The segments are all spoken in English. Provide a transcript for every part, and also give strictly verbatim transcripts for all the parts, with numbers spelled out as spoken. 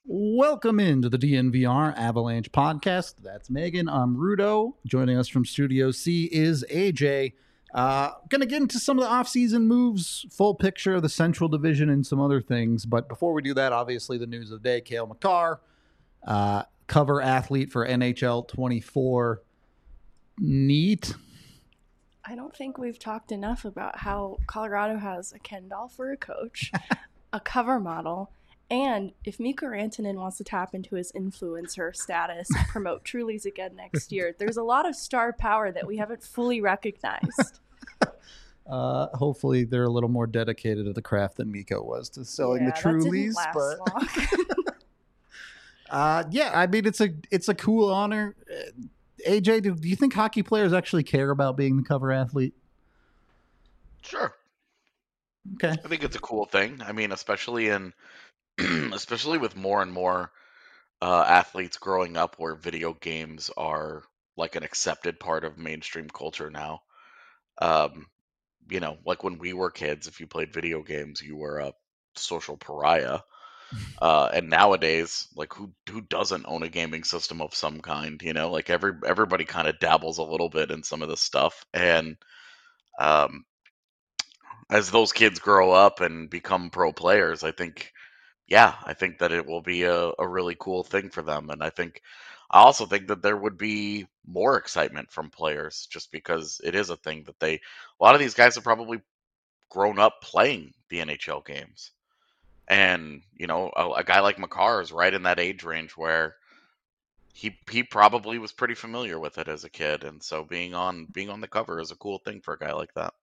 Welcome into the D N V R Avalanche podcast. That's Megan. I'm Rudo. Joining us from Studio C is A J. Uh, gonna get into some of the offseason moves, full picture of the Central Division, and some other things. But before we do that, obviously the news of the day: Cale Makar, uh, cover athlete for N H L twenty-four. Neat. I don't think we've talked enough about how Colorado has a Ken Doll for a coach, a cover model, and if Mikko Rantanen wants to tap into his influencer status and promote Trulies again next year, there's a lot of star power that we haven't fully recognized. Uh, hopefully they're a little more dedicated to the craft than Mikko was to selling yeah, the Trulies. That but didn't last long. uh, yeah, I mean it's a it's a cool honor. A J, do, do you think hockey players actually care about being the cover athlete? Sure. Okay. I think it's a cool thing. I mean, especially in, especially with more and more uh, athletes growing up where video games are like an accepted part of mainstream culture now. Um, you know, like when we were kids, if you played video games, you were a social pariah. Uh, and nowadays, like who who doesn't own a gaming system of some kind? You know, like every everybody kind of dabbles a little bit in some of this stuff, and um, as those kids grow up and become pro players, I think, yeah, I think that it will be a, a really cool thing for them. And I think, I also think that there would be more excitement from players just because it is a thing that they, a lot of these guys have probably grown up playing the N H L games. And, you know, a, a guy like Makar is right in that age range where he he probably was pretty familiar with it as a kid. And so being on being on the cover is a cool thing for a guy like that.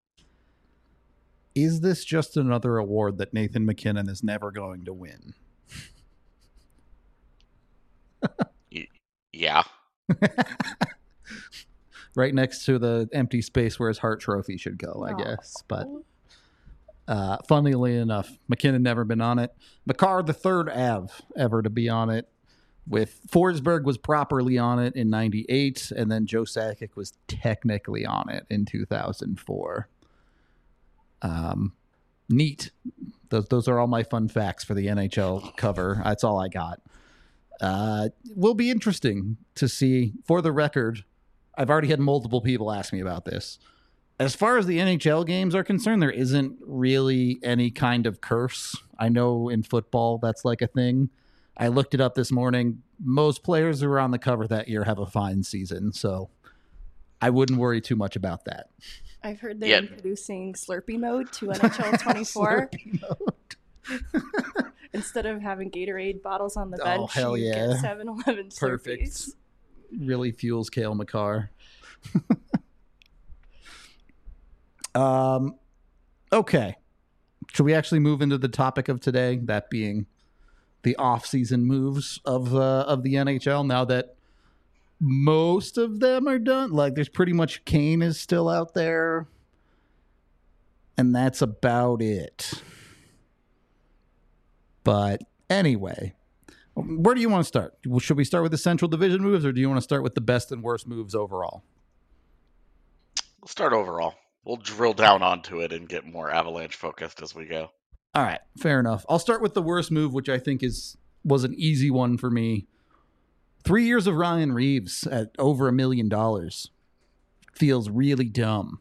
Is this just another award that Nathan MacKinnon is never going to win? Yeah. Right next to the empty space where his Hart Trophy should go, I guess. But uh, funnily enough, MacKinnon never been on it. Makar, the third Av ever to be on it. With Forsberg was properly on it in ninety-eight, and then Joe Sakic was technically on it in two thousand four. Um, neat. Those those are all my fun facts for the N H L cover. That's all I got. Uh, will be interesting to see. For the record, I've already had multiple people ask me about this. As far as the N H L games are concerned, there isn't really any kind of curse. I know in football that's like a thing. I looked it up this morning. Most players who were on the cover that year have a fine season, so I wouldn't worry too much about that. I've heard they're Yeah. introducing Slurpee mode to N H L twenty-four. Slurpee mode. Instead of having Gatorade bottles on the bench, Oh, hell you yeah. get seven eleven Perfect. Slurpees. Really fuels Cale Makar. um, okay. Should we actually move into the topic of today, that being the off-season moves of uh, of the N H L, now that most of them are done? Like, there's pretty much Kane is still out there, and that's about it. But anyway, where do you want to start? Should we start with the Central Division moves, or do you want to start with the best and worst moves overall? We'll start overall. We'll drill down onto it and get more Avalanche focused as we go. All right, fair enough. I'll start with the worst move, which I think is was an easy one for me. Three years of Ryan Reeves at over a million dollars feels really dumb.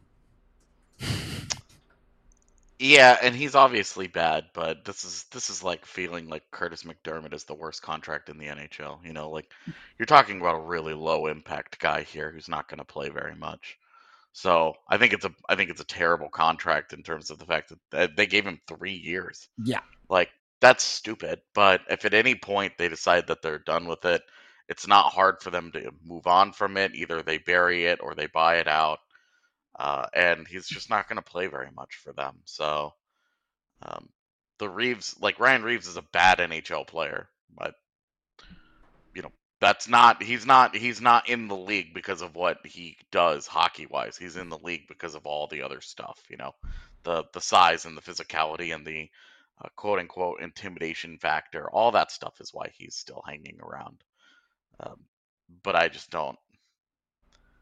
Yeah, and he's obviously bad, but this is this is like feeling like Curtis McDermott is the worst contract in the N H L. You know, like you're talking about a really low impact guy here who's not going to play very much. So I think it's a I think it's a terrible contract in terms of the fact that they gave him three years. Yeah. Like that's stupid. But if at any point they decide that they're done with it, it's not hard for them to move on from it. Either they bury it or they buy it out. Uh, and he's just not going to play very much for them. So um, the Reeves, like Ryan Reeves, is a bad N H L player, but you know that's not he's not he's not in the league because of what he does hockey wise. He's in the league because of all the other stuff. You know, the the size and the physicality and the uh, quote unquote intimidation factor. All that stuff is why he's still hanging around. Um, but I just don't.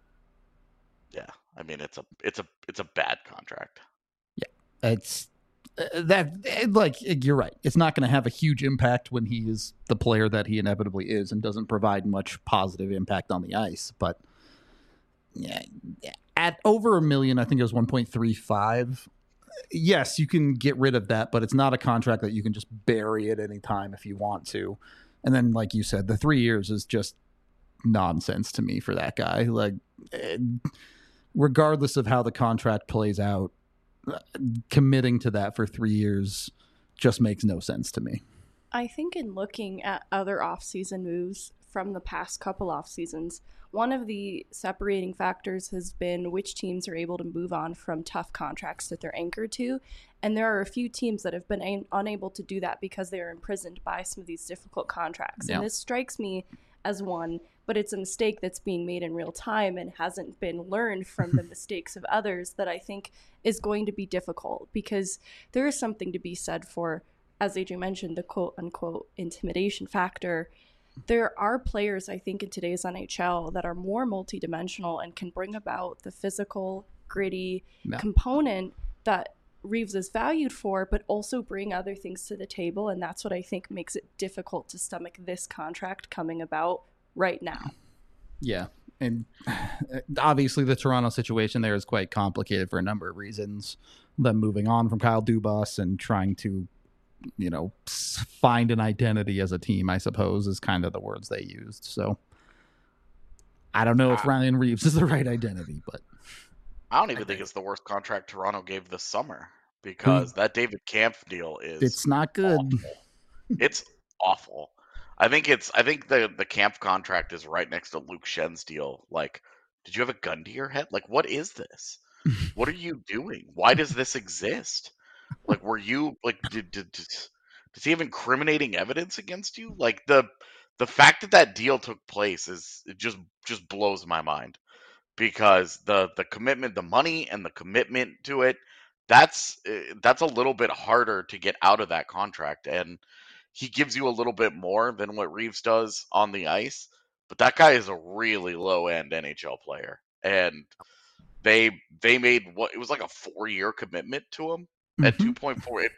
Yeah, I mean it's a it's a it's a bad contract. Yeah, it's Uh, that like you're right. It's not going to have a huge impact when he is the player that he inevitably is and doesn't provide much positive impact on the ice. But yeah, at over a million, I think it was one point three five. Yes, you can get rid of that, but it's not a contract that you can just bury at any time if you want to. And then, like you said, the three years is just nonsense to me for that guy. Like, regardless of how the contract plays out, committing to that for three years just makes no sense to me. I think in looking at other offseason moves from the past couple off seasons, one of the separating factors has been which teams are able to move on from tough contracts that they're anchored to. And there are a few teams that have been a- unable to do that because they are imprisoned by some of these difficult contracts. Yeah. And this strikes me as one, but it's a mistake that's being made in real time and hasn't been learned from the mistakes of others that I think is going to be difficult, because there is something to be said for, as A J mentioned, the quote unquote intimidation factor. There are players, I think, in today's N H L that are more multidimensional and can bring about the physical, gritty no. component that Reeves is valued for, but also bring other things to the table. And that's what I think makes it difficult to stomach this contract coming about right now. Yeah. And obviously the Toronto situation there is quite complicated for a number of reasons. Them moving on from Kyle Dubas and trying to, you know, find an identity as a team, I suppose, is kind of the words they used. So I don't know if Ryan Reeves is the right identity, but I don't even I think, think it's the worst contract Toronto gave this summer, because mm. that David Kampf deal is it's not good. Awful. It's awful. I think it's I think the the Kampf contract is right next to Luke Schen's deal. Like, did you have a gun to your head? Like, what is this? What are you doing? Why does this exist? Like, were you like did, did, did does he have incriminating evidence against you? Like, the the fact that that deal took place is it just just blows my mind, because the the commitment, the money and the commitment to it, that's that's a little bit harder to get out of that contract, and he gives you a little bit more than what Reeves does on the ice, but that guy is a really low end N H L player, and they they made what it was like a four year commitment to him mm-hmm. at two point four. It,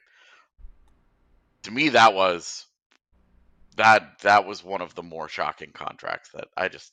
to me, that was that that was one of the more shocking contracts that I just.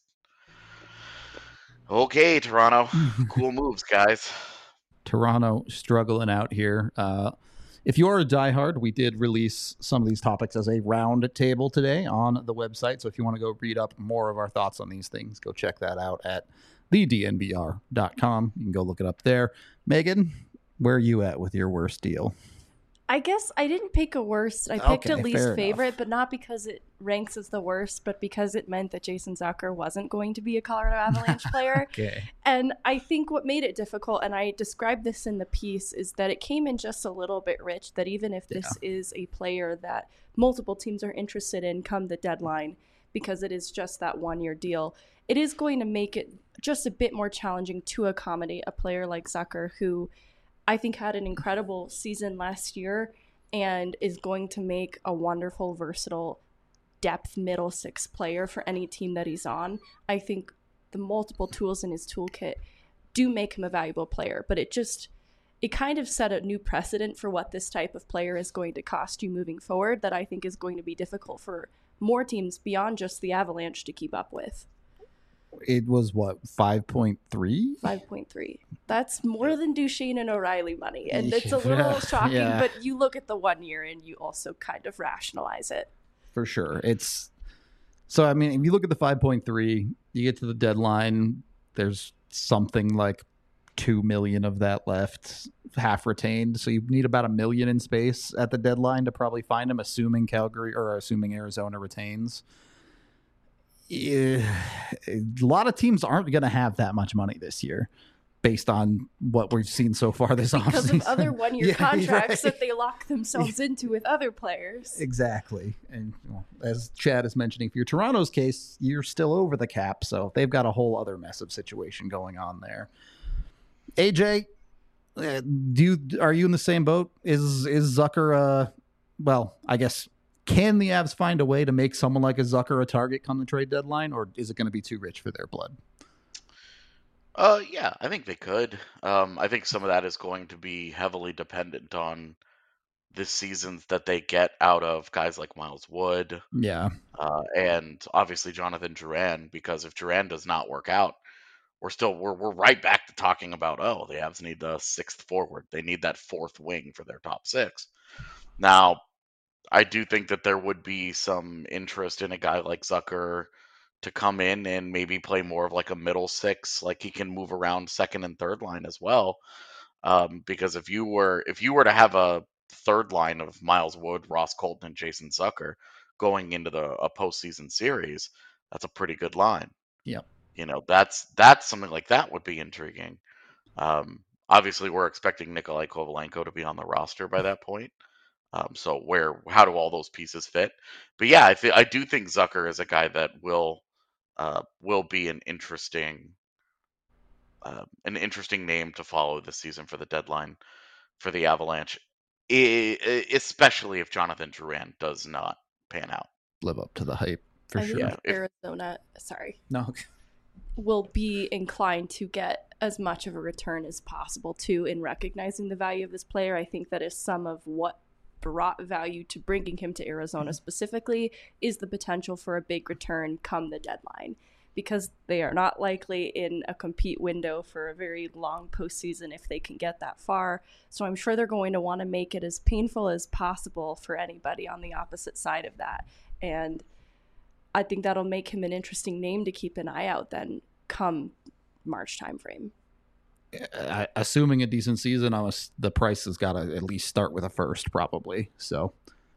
Okay, Toronto, cool moves, guys. Toronto struggling out here. Uh, if you're a diehard, we did release some of these topics as a round table today on the website. So if you want to go read up more of our thoughts on these things, go check that out at the d n b r dot com. You can go look it up there. Megan, where are you at with your worst deal? I guess I didn't pick a worst. I picked okay, a least favorite, enough. But not because it ranks as the worst, but because it meant that Jason Zucker wasn't going to be a Colorado Avalanche player. Okay. And I think what made it difficult, and I described this in the piece, is that it came in just a little bit rich, that even if this yeah. is a player that multiple teams are interested in come the deadline, because it is just that one-year deal, it is going to make it just a bit more challenging to accommodate a player like Zucker, who I think had an incredible season last year and is going to make a wonderful, versatile depth middle six player for any team that he's on. I think the multiple tools in his toolkit do make him a valuable player, but it just, it kind of set a new precedent for what this type of player is going to cost you moving forward that I think is going to be difficult for more teams beyond just the Avalanche to keep up with. It was what, five point three? five point three. That's more than Duchesne and O'Reilly money. And it's a little shocking, yeah. But you look at the one year and you also kind of rationalize it. For sure. It's so, I mean, if you look at the five point three, you get to the deadline, there's something like two million of that left, half retained. So you need about a million in space at the deadline to probably find him, assuming Calgary or assuming Arizona retains. Yeah, a lot of teams aren't going to have that much money this year based on what we've seen so far this offseason. Because of other one-year yeah, contracts right. that they lock themselves into with other players. Exactly. And well, as Chad is mentioning, for your Toronto's case, you're still over the cap, so they've got a whole other mess of situation going on there. A J, uh, do you, are you in the same boat? Is, is Zucker, uh, well, I guess... Can the Avs find a way to make someone like a Zucker a target come the trade deadline, or is it going to be too rich for their blood? Uh, yeah, I think they could. Um, I think some of that is going to be heavily dependent on the seasons that they get out of guys like Miles Wood, Yeah. uh, and obviously Jonathan Drouin, because if Drouin does not work out, we're still we're we're right back to talking about, oh, the Avs need a sixth forward. They need that fourth wing for their top six. Now, I do think that there would be some interest in a guy like Zucker to come in and maybe play more of like a middle six, like he can move around second and third line as well. Um, because if you were if you were to have a third line of Miles Wood, Ross Colton, and Jason Zucker going into the a postseason series, that's a pretty good line. Yep. You know, that's that's something like that would be intriguing. Um, obviously, we're expecting Nikolai Kovalenko to be on the roster by that point. Um, so where how do all those pieces fit? But yeah, I th- I do think Zucker is a guy that will uh, will be an interesting uh, an interesting name to follow this season for the deadline for the Avalanche, I- I- especially if Jonathan Drouin does not pan out. Live up to the hype for I sure. think Yeah, if- Arizona, sorry, No. will be inclined to get as much of a return as possible too in recognizing the value of this player. I think that is some of what brought value to bringing him to Arizona specifically, is the potential for a big return come the deadline, because they are not likely in a compete window for a very long postseason if they can get that far. So I'm sure they're going to want to make it as painful as possible for anybody on the opposite side of that. And I think that'll make him an interesting name to keep an eye out then come March timeframe. I, assuming a decent season, I was, the price has got to at least start with a first, probably. So,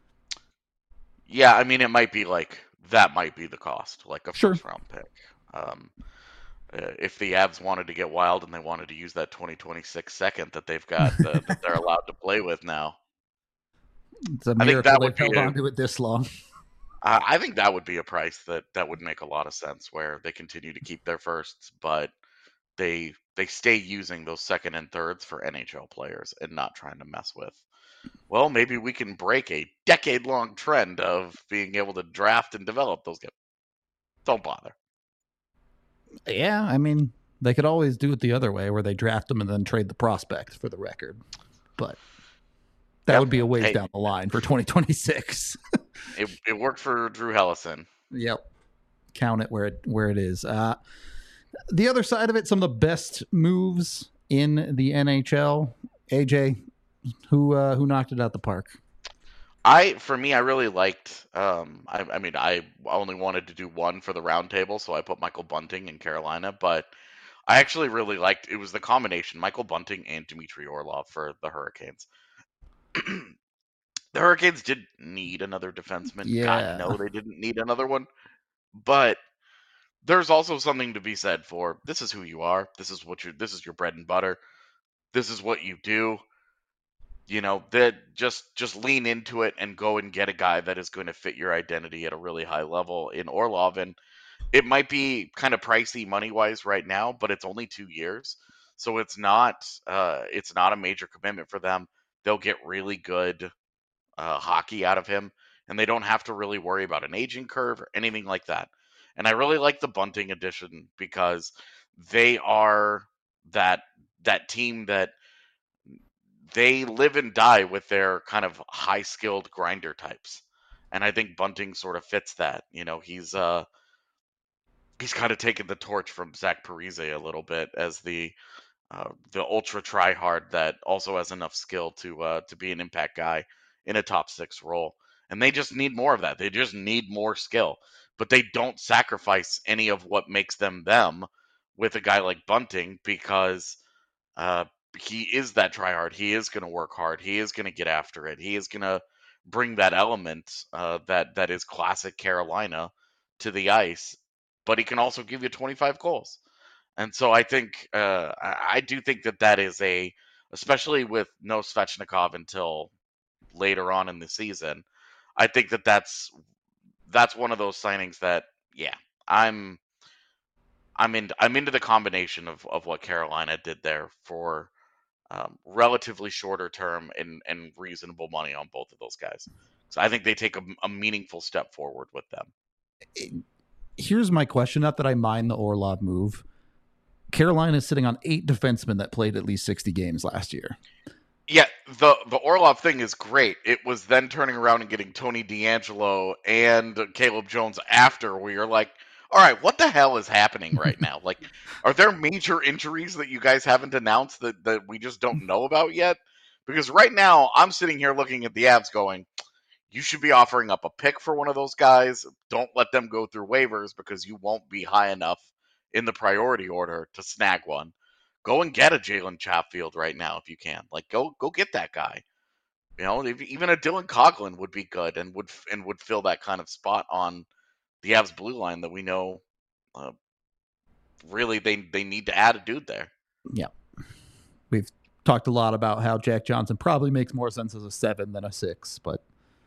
yeah, I mean, it might be like that might be the cost, like a Sure. first round pick. Um, uh, if the Avs wanted to get wild and they wanted to use that twenty twenty-six second that they've got uh, that they're allowed to play with now, it's a I think miracle that would they've held be a- on to it this long. uh, I think that would be a price that that would make a lot of sense, where they continue to keep their firsts, but they they stay using those second and thirds for N H L players and not trying to mess with. Well, maybe we can break a decade long trend of being able to draft and develop those guys. Don't bother. Yeah, I mean, they could always do it the other way, where they draft them and then trade the prospect for the record. But that Yep. would be a ways Hey. down the line for twenty twenty-six. It it worked for Drew Hellison. Yep. Count it where it where it is. Uh, the other side of it, some of the best moves in the N H L. A J, who uh, who knocked it out the park? I for me, I really liked. Um, I, I mean, I only wanted to do one for the roundtable, so I put Michael Bunting in Carolina. But I actually really liked. It was the combination Michael Bunting and Dmitry Orlov for the Hurricanes. The Hurricanes did need another defenseman. Yeah. God, no, they didn't need another one. But there's also something to be said for this is who you are. This is what you this is your bread and butter. This is what you do. You know, that just just lean into it and go and get a guy that is going to fit your identity at a really high level in Orlov. And it might be kind of pricey money wise right now, but it's only two years. So it's not uh it's not a major commitment for them. They'll get really good uh, hockey out of him, and they don't have to really worry about an aging curve or anything like that. And I really like the Bunting edition because they are that that team that they live and die with their kind of high skilled grinder types. And I think Bunting sort of fits that. You know, he's uh he's kind of taken the torch from Zach Parise a little bit as the uh, the ultra try hard that also has enough skill to uh, to be an impact guy in a top six role. And they just need more of that. They just need more skill, but they don't sacrifice any of what makes them them with a guy like Bunting because uh, he is that try hard. He is going to work hard. He is going to get after it. He is going to bring that element uh, that that is classic Carolina to the ice. But he can also give you twenty-five goals. And so I think uh, I, I do think that that is a, especially with no Svechnikov until later on in the season. I think that that's that's one of those signings that yeah I'm I'm in I'm into the combination of, of what Carolina did there for um, relatively shorter term and, and reasonable money on both of those guys. So I think they take a, a meaningful step forward with them. Here's my question. Not that I mind the Orlov move. Carolina is sitting on eight defensemen that played at least sixty games last year. Yeah, the the Orlov thing is great. It was then turning around and getting Tony D'Angelo and Caleb Jones after where you're like, all right, what the hell is happening right now? Like, are there major injuries that you guys haven't announced that, that we just don't know about yet? Because right now, I'm sitting here looking at the Avs going, you should be offering up a pick for one of those guys. Don't let them go through waivers because you won't be high enough in the priority order to snag one. Go and get a Jalen Chatfield right now if you can. Like, go go get that guy. You know, if, even a Dylan Coughlin would be good and would and would fill that kind of spot on the Avs blue line that we know. Uh, really, they they need to add a dude there. Yeah, we've talked a lot about how Jack Johnson probably makes more sense as a seven than a six, but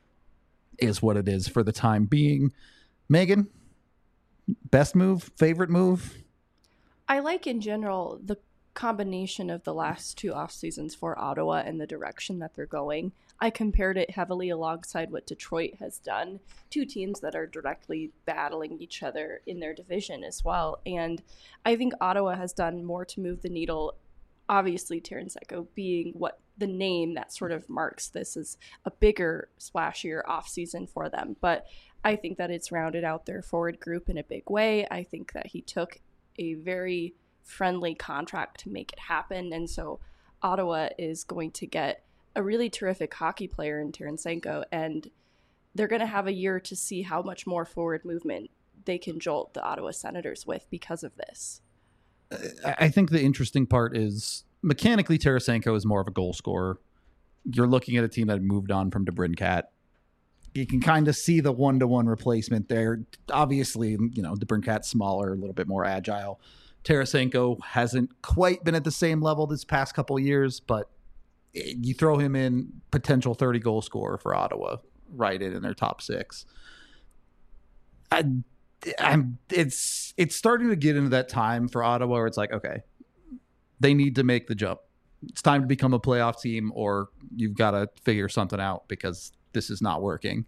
is what it is for the time being. Megan, best move, favorite move? I like in general the combination of the last two off seasons for Ottawa and the direction that they're going. I compared it heavily alongside what Detroit has done, two teams that are directly battling each other in their division as well. And I think Ottawa has done more to move the needle. Obviously, Tarasenko being what the name that sort of marks this as a bigger, splashier offseason for them. But I think that it's rounded out their forward group in a big way. I think that he took a very friendly contract to make it happen. And so Ottawa is going to get a really terrific hockey player in Tarasenko, and they're going to have a year to see how much more forward movement they can jolt the Ottawa Senators with because of this. I think the interesting part is mechanically Tarasenko is more of a goal scorer. You're looking at a team that moved on from DeBrincat. You can kind of see the one-to-one replacement there. Obviously, you know, DeBrincat's smaller, a little bit more agile. Tarasenko hasn't quite been at the same level this past couple of years, but you throw him in, potential thirty-goal scorer for Ottawa, right in, in their top six. I, I'm, it's it's starting to get into that time for Ottawa where it's like, okay, they need to make the jump. It's time to become a playoff team, or you've got to figure something out because this is not working.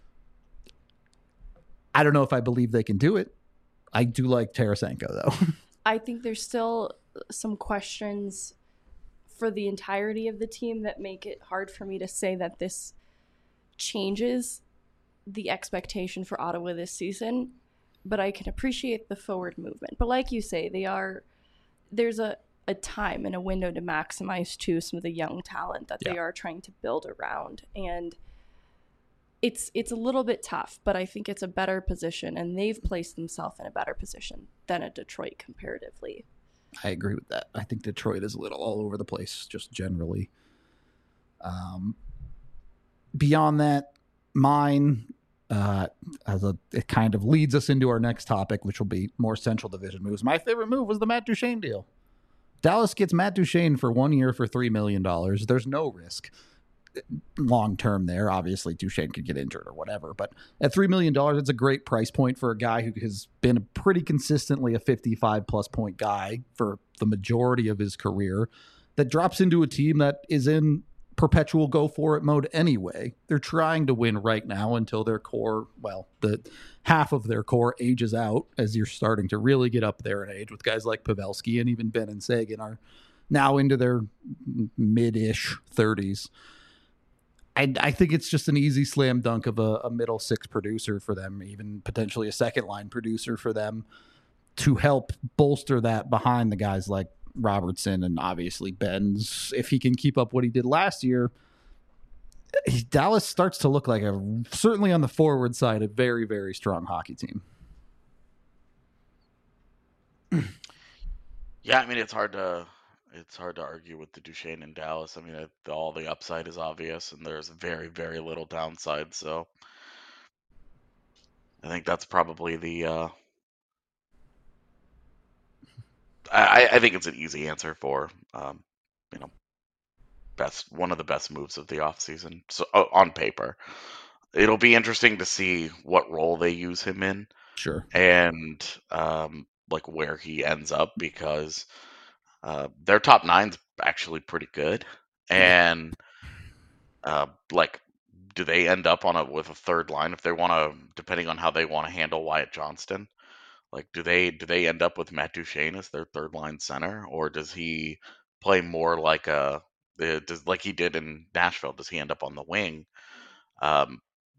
I don't know if I believe they can do it. I do like Tarasenko, though. I think there's still some questions for the entirety of the team that make it hard for me to say that this changes the expectation for Ottawa this season. But I can appreciate the forward movement. But like you say, they are there's a, a time and a window to maximize too some of the young talent that yeah. they are trying to build around. And it's it's a little bit tough, but I think it's a better position, and they've placed themselves in a better position than a Detroit comparatively. I agree with that. I think Detroit is a little all over the place, just generally. Um, beyond that, mine, uh, as a, it kind of leads us into our next topic, which will be more Central Division moves. My favorite move was the Matt Duchene deal. Dallas gets Matt Duchene for one year for three million dollars. There's no risk long term there. Obviously, Duchene could get injured or whatever, but at three million dollars, it's a great price point for a guy who has been pretty consistently a fifty-five plus point guy for the majority of his career, that drops into a team that is in perpetual go for it mode anyway. They're trying to win right now until their core, well, the half of their core ages out, as you're starting to really get up there in age with guys like Pavelski and even Ben and Sagan are now into their mid-ish thirties. I, I think it's just an easy slam dunk of a, a middle six producer for them, even potentially a second line producer for them, to help bolster that behind the guys like Robertson and obviously Benz. If he can keep up what he did last year, he, Dallas starts to look like a, certainly on the forward side, a very, very strong hockey team. Yeah, I mean, it's hard to it's hard to argue with the Duchene in Dallas. I mean, it, all the upside is obvious, and there's very, very little downside. So, I think that's probably the. Uh, I, I think it's an easy answer for, um, you know, best one of the best moves of the offseason. So uh, on paper, it'll be interesting to see what role they use him in. Sure. And um, like where he ends up, because uh, their top nine's actually pretty good, and uh, like, do they end up on a with a third line if they want to, depending on how they want to handle Wyatt Johnston? Like, do they do they end up with Matt Duchene as their third line center, or does he play more like a Uh, does, like he did in Nashville, does he end up on the wing? Um,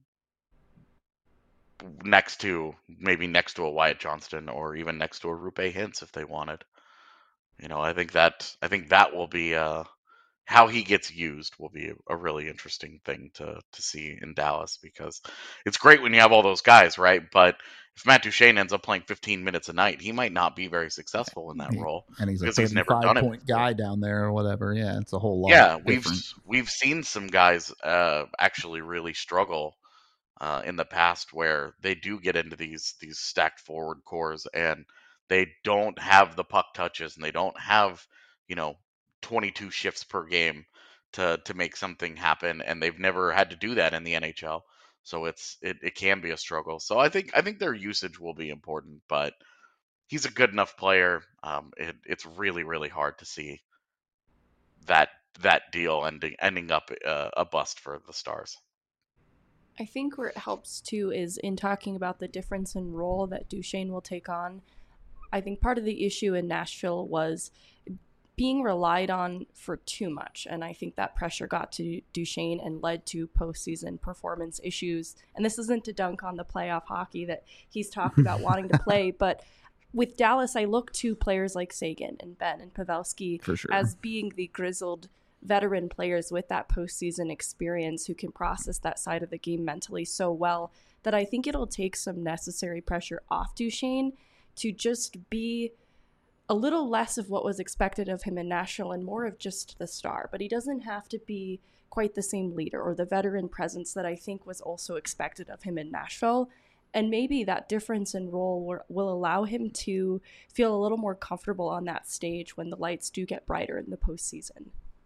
next to maybe next to a Wyatt Johnston or even next to a Rupe Hintz if they wanted. You know, I think that I think that will be uh, how he gets used will be a really interesting thing to to see in Dallas, because it's great when you have all those guys, right? But if Matt Duchene ends up playing fifteen minutes a night, he might not be very successful in that He- role and he's a because he's never thirty-five done it point before. guy down there or whatever. Yeah, it's a whole lot. Yeah, we've different. we've seen some guys uh, actually really struggle uh, in the past where they do get into these these stacked forward cores and they don't have the puck touches and they don't have, you know, twenty-two shifts per game to to make something happen, and they've never had to do that in the N H L. So it's it, it can be a struggle. So I think I think their usage will be important, but he's a good enough player. Um, it, it's really really hard to see that that deal ending ending up uh, a bust for the Stars. I think where it helps too is in talking about the difference in role that Duchene will take on. I think part of the issue in Nashville was being relied on for too much. And I think that pressure got to Duchene and led to postseason performance issues. And this isn't to dunk on the playoff hockey that he's talked about wanting to play, but with Dallas, I look to players like Seguin and Benn and Pavelski For sure. as being the grizzled veteran players with that postseason experience who can process that side of the game mentally so well that I think it'll take some necessary pressure off Duchene to just be a little less of what was expected of him in Nashville and more of just the star. But he doesn't have to be quite the same leader or the veteran presence that I think was also expected of him in Nashville. And maybe that difference in role will, will allow him to feel a little more comfortable on that stage when the lights do get brighter in the postseason.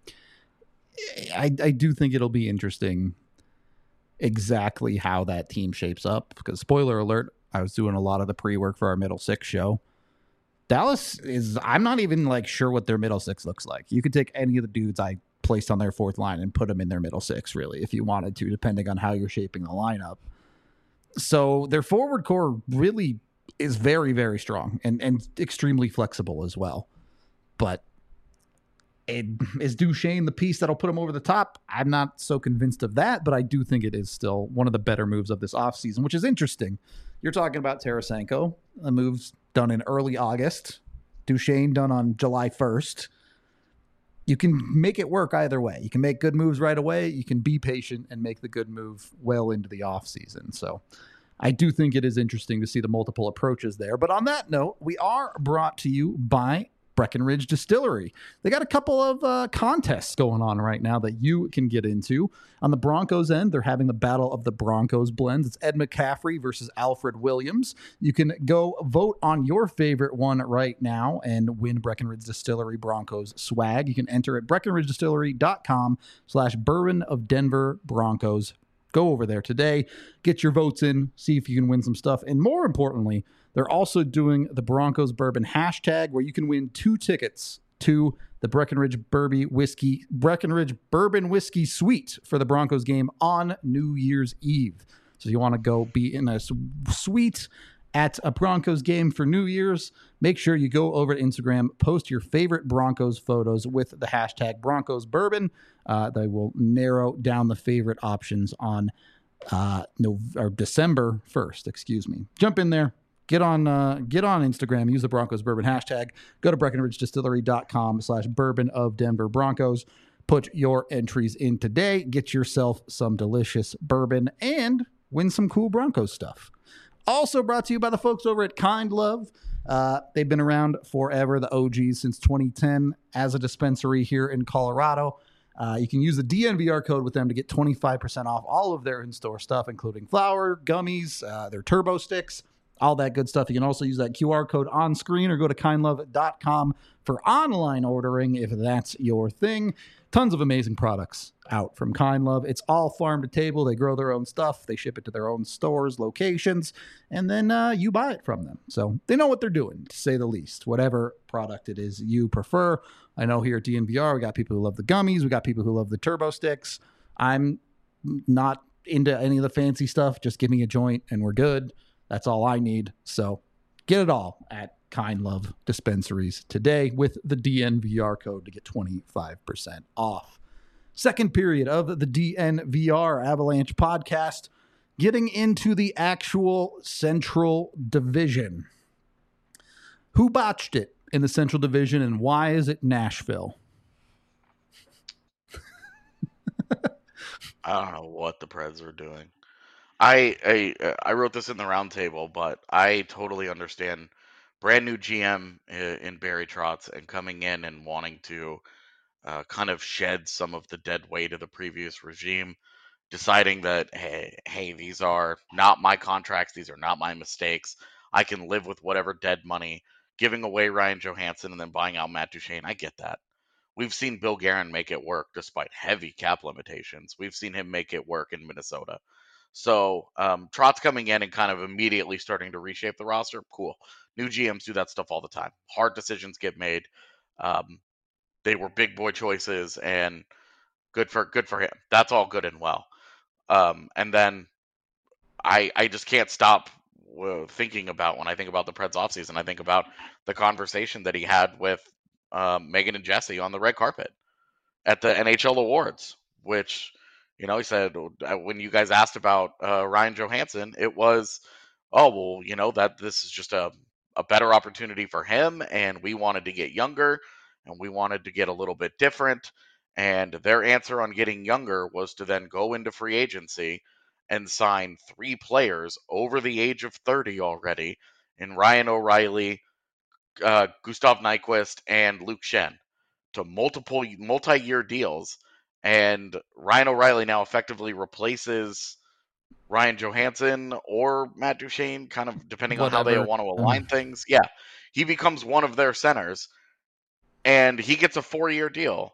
I, I do think it'll be interesting exactly how that team shapes up, because spoiler alert, I was doing a lot of the pre-work for our middle six show. Dallas is, I'm not even like sure what their middle six looks like. You could take any of the dudes I placed on their fourth line and put them in their middle six, really, if you wanted to, depending on how you're shaping the lineup. So their forward core really is very, very strong and, and extremely flexible as well. But it, is Duchene the piece that'll put him over the top? I'm not so convinced of that, but I do think it is still one of the better moves of this offseason, which is interesting. You're talking about Tarasenko, a move's done in early August. Duchene done on July first. You can make it work either way. You can make good moves right away. You can be patient and make the good move well into the offseason. So I do think it is interesting to see the multiple approaches there. But on that note, we are brought to you by Breckenridge Distillery. They got a couple of uh, contests going on right now that you can get into. On the Broncos end, they're having the Battle of the Broncos blends. It's Ed McCaffrey versus Alfred Williams. You can go vote on your favorite one right now and win Breckenridge Distillery Broncos swag. You can enter at breckenridgedistillery.com slash bourbon of Denver Broncos. Go over there today, get your votes in, see if you can win some stuff. And more importantly, they're also doing the Broncos Bourbon hashtag, where you can win two tickets to the Breckenridge Bourbon Whiskey, Breckenridge Bourbon Whiskey Suite for the Broncos game on New Year's Eve. So you want to go be in a suite at a Broncos game for New Year's, make sure you go over to Instagram, post your favorite Broncos photos with the hashtag Broncos Bourbon. Uh, they will narrow down the favorite options on uh, no, or December first, excuse me. Jump in there. Get on uh, get on Instagram, use the Broncos Bourbon hashtag, go to breckenridgedistillery.com slash bourbon of Denver Broncos. Put your entries in today, get yourself some delicious bourbon, and win some cool Broncos stuff. Also brought to you by the folks over at Kind Love. Uh, they've been around forever, the O Gs, since twenty ten as a dispensary here in Colorado. Uh, you can use the D N V R code with them to get twenty-five percent off all of their in-store stuff, including flour, gummies, uh, their turbo sticks, all that good stuff. You can also use that Q R code on screen or go to kind love dot com for online ordering if that's your thing. Tons of amazing products out from Kind Love. It's all farm to table. They grow their own stuff. They ship it to their own stores, locations, and then uh, you buy it from them. So they know what they're doing, to say the least, whatever product it is you prefer. I know here at D N V R, we got people who love the gummies. We got people who love the turbo sticks. I'm not into any of the fancy stuff. Just give me a joint and we're good. That's all I need. So get it all at Kind Love dispensaries today with the D N V R code to get twenty-five percent off. Second period of the D N V R Avalanche podcast, getting into the actual Central Division. Who botched it in the Central Division, and why is it Nashville? I don't know what the Preds are doing. I, I I wrote this in the roundtable, but I totally understand brand new G M in Barry Trotz and coming in and wanting to uh, kind of shed some of the dead weight of the previous regime, deciding that hey hey these are not my contracts, these are not my mistakes. I can live with whatever dead money. Giving away Ryan Johansson and then buying out Matt Duchene, I get that. We've seen Bill Guerin make it work despite heavy cap limitations. We've seen him make it work in Minnesota. So um, Trotz coming in and kind of immediately starting to reshape the roster, cool. New G Ms do that stuff all the time. Hard decisions get made. Um, they were big boy choices, and good for good for him. That's all good and well. Um, and then I I just can't stop uh, thinking about when I think about the Preds offseason. I think about the conversation that he had with um, Megan and Jesse on the red carpet at the N H L Awards, which, you know, he said when you guys asked about uh, Ryan Johansson, it was, oh, well, you know, that this is just a, a better opportunity for him, and we wanted to get younger, and we wanted to get a little bit different. And their answer on getting younger was to then go into free agency and sign three players over the age of thirty already in Ryan O'Reilly, uh, Gustav Nyquist, and Luke Schenn to multiple multi-year deals. And Ryan O'Reilly now effectively replaces Ryan Johansson or Matt Duchene, kind of depending Whatever. on how they want to align mm. things. Yeah, he becomes one of their centers, and he gets a four-year deal.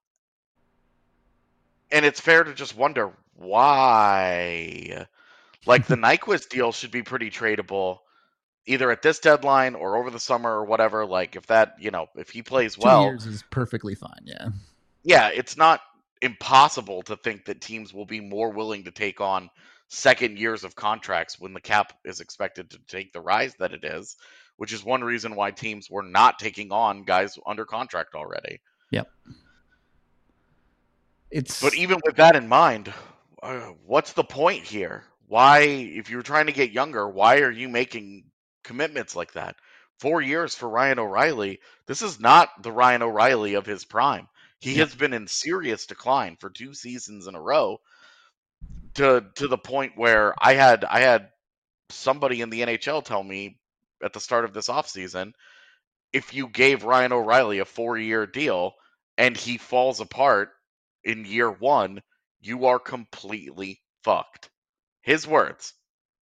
And it's fair to just wonder why. Like, the Nyquist deal should be pretty tradable, either at this deadline or over the summer or whatever. Like, if that, you know, if he plays well, two years is perfectly fine. Yeah. Yeah. It's not impossible to think that teams will be more willing to take on second years of contracts when the cap is expected to take the rise that it is, which is one reason why teams were not taking on guys under contract already. Yep. It's But even with that in mind, uh, what's the point here? Why, if you're trying to get younger, why are you making commitments like that? Four years for Ryan O'Reilly. This is not the Ryan O'Reilly of his prime. He yeah. has been in serious decline for two seasons in a row, to to the point where I had I had somebody in the N H L tell me at the start of this offseason, if you gave Ryan O'Reilly a four-year deal and he falls apart in year one, you are completely fucked. His words.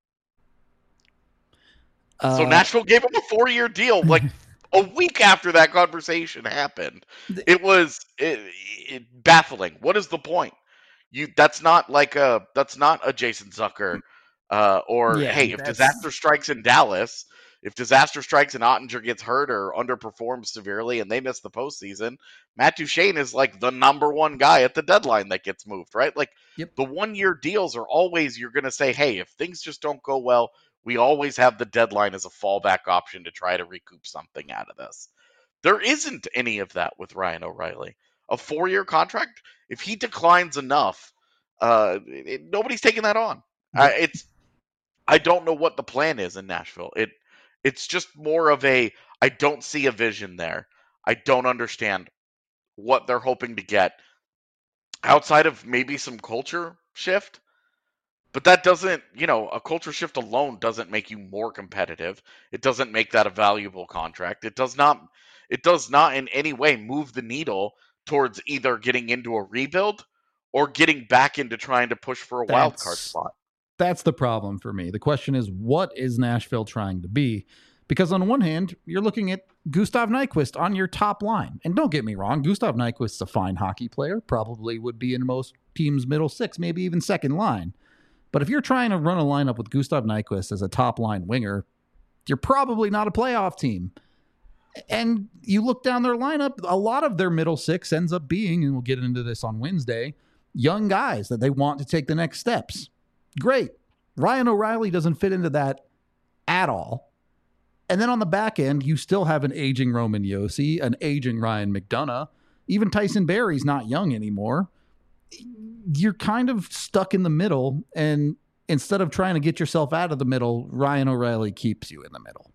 Uh, so Nashville gave him a four-year deal like a week after that conversation happened. It was it, it, baffling. What is the point? You that's not like a that's not a Jason Zucker uh, or yeah, hey, if disaster strikes in Dallas, if disaster strikes and Ottinger gets hurt or underperforms severely and they miss the postseason, Matt Duchene is like the number one guy at the deadline that gets moved, right? Like yep. the one-year deals are always, you're going to say, hey, if things just don't go well, we always have the deadline as a fallback option to try to recoup something out of this. There isn't any of that with Ryan O'Reilly. A four-year contract, if he declines enough, uh, it, nobody's taking that on. Yep. Uh, it's I don't know what the plan is in Nashville. It It's just more of a, I don't see a vision there. I don't understand what they're hoping to get outside of maybe some culture shift. But that doesn't, you know, a culture shift alone doesn't make you more competitive. It doesn't make that a valuable contract. It does not, it does not in any way move the needle towards either getting into a rebuild or getting back into trying to push for a That's... wild card spot. That's the problem for me. The question is, what is Nashville trying to be? Because on one hand, you're looking at Gustav Nyquist on your top line. And don't get me wrong, Gustav Nyquist's a fine hockey player, probably would be in most teams' middle six, maybe even second line. But if you're trying to run a lineup with Gustav Nyquist as a top line winger, you're probably not a playoff team. And you look down their lineup, a lot of their middle six ends up being, and we'll get into this on Wednesday, young guys that they want to take the next steps. Great. Ryan O'Reilly doesn't fit into that at all. And then on the back end, you still have an aging Roman Yossi, an aging Ryan McDonough. Even Tyson Barrie's not young anymore. You're kind of stuck in the middle, and instead of trying to get yourself out of the middle, Ryan O'Reilly keeps you in the middle.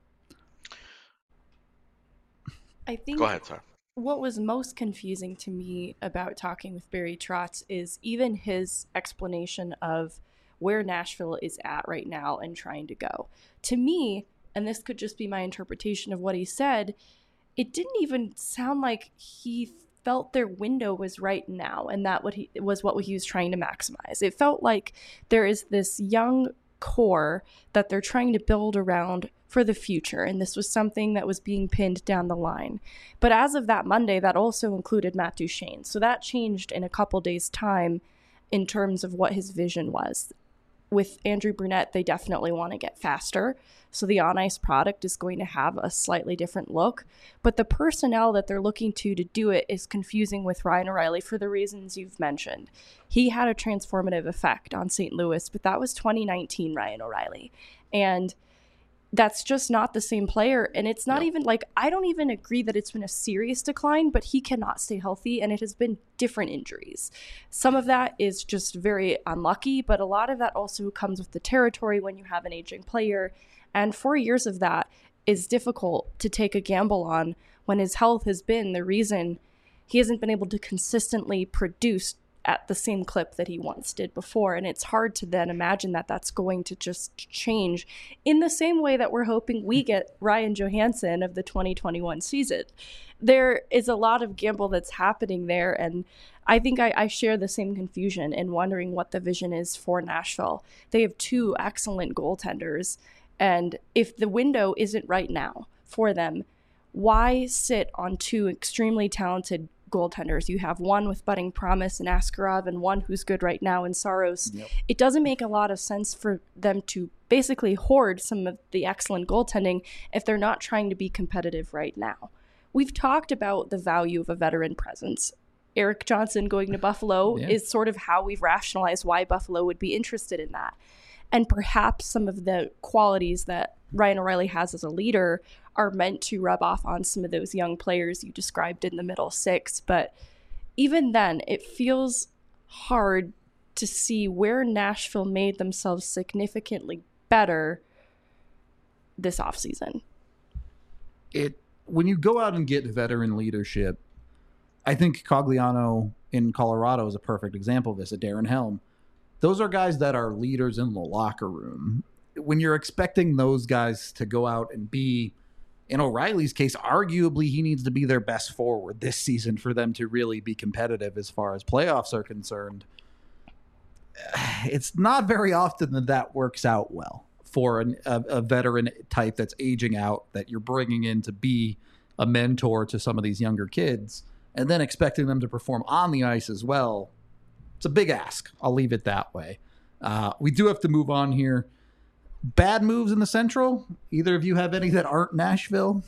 I think Go ahead, sorry. What was most confusing to me about talking with Barry Trotz is even his explanation of where Nashville is at right now and trying to go. To me, and this could just be my interpretation of what he said, it didn't even sound like he felt their window was right now, and that what he was what he was trying to maximize. It felt like there is this young core that they're trying to build around for the future, and this was something that was being pinned down the line. But as of that Monday, that also included Matt Duchene, so that changed in a couple days' time in terms of what his vision was. With Andrew Brunette, they definitely want to get faster, so the on-ice product is going to have a slightly different look, but the personnel that they're looking to to do it is confusing with Ryan O'Reilly for the reasons you've mentioned. He had a transformative effect on Saint Louis, but that was twenty nineteen Ryan O'Reilly, and that's just not the same player. And it's not no. even like, I don't even agree that it's been a serious decline, but he cannot stay healthy, and it has been different injuries. Some of that is just very unlucky, but a lot of that also comes with the territory when you have an aging player. And four years of that is difficult to take a gamble on when his health has been the reason he hasn't been able to consistently produce at the same clip that he once did before. And it's hard to then imagine that that's going to just change in the same way that we're hoping we get Ryan Johansson of the twenty twenty-one season. There is a lot of gamble that's happening there. And I think I, I share the same confusion in wondering what the vision is for Nashville. They have two excellent goaltenders. And if the window isn't right now for them, why sit on two extremely talented goaltenders? You have one with budding promise in Askarov and one who's good right now in Saros. Yep. It doesn't make a lot of sense for them to basically hoard some of the excellent goaltending if they're not trying to be competitive right now. We've talked about the value of a veteran presence. Erik Johnson going to Buffalo yeah. is sort of how we've rationalized why Buffalo would be interested in that. And perhaps some of the qualities that Ryan O'Reilly has as a leader are meant to rub off on some of those young players you described in the middle six. But even then, it feels hard to see where Nashville made themselves significantly better this offseason. It when you go out and get veteran leadership, I think Cogliano in Colorado is a perfect example of this, a Darren Helm. Those are guys that are leaders in the locker room. When you're expecting those guys to go out and be, in O'Reilly's case, arguably he needs to be their best forward this season for them to really be competitive as far as playoffs are concerned. It's not very often that that works out well for an, a, a veteran type that's aging out, that you're bringing in to be a mentor to some of these younger kids, and then expecting them to perform on the ice as well. It's a big ask. I'll leave it that way. Uh, we do have to move on here. Bad moves in the Central? Either of you have any that aren't Nashville?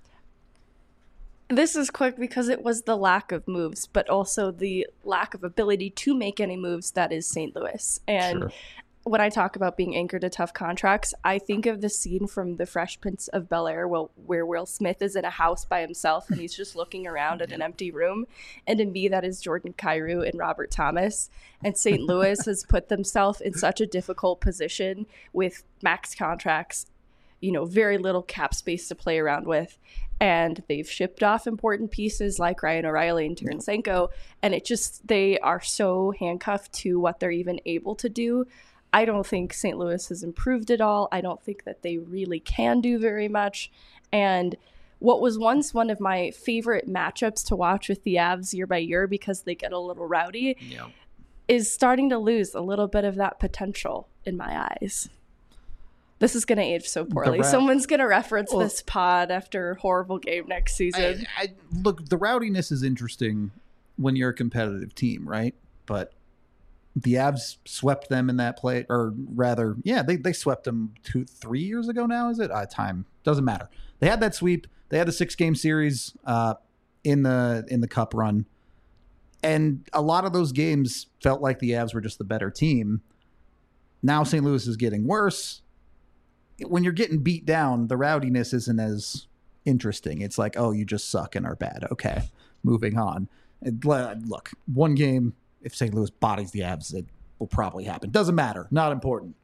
This is quick because it was the lack of moves, but also the lack of ability to make any moves that is Saint Louis. And sure. When I talk about being anchored to tough contracts, I think of the scene from The Fresh Prince of Bel-Air where, where Will Smith is in a house by himself and he's just looking around at an empty room. And to me, that is Jordan Kyrou and Robert Thomas. And Saint Louis has put themselves in such a difficult position with max contracts, you know, very little cap space to play around with. And they've shipped off important pieces like Ryan O'Reilly and Tarasenko. And it just, they are so handcuffed to what they're even able to do. I don't think Saint Louis has improved at all. I don't think that they really can do very much. And what was once one of my favorite matchups to watch with the Avs year by year because they get a little rowdy yeah. is starting to lose a little bit of that potential in my eyes. This is going to age so poorly. Ra- Someone's going to reference well, this pod after a horrible game next season. I, I, look, the rowdiness is interesting when you're a competitive team, right? But the Avs swept them in that play, or rather, yeah, they, they swept them two, three years ago now, is it? Uh, time. Doesn't matter. They had that sweep. They had a six-game series uh, in the in the Cup run. And a lot of those games felt like the Avs were just the better team. Now Saint Louis is getting worse. when you're getting beat down, the rowdiness isn't as interesting. It's like, oh, you just suck and are bad. Okay, moving on. And, look, one game, if Saint Louis bodies the Avs, it will probably happen. Doesn't matter. Not important.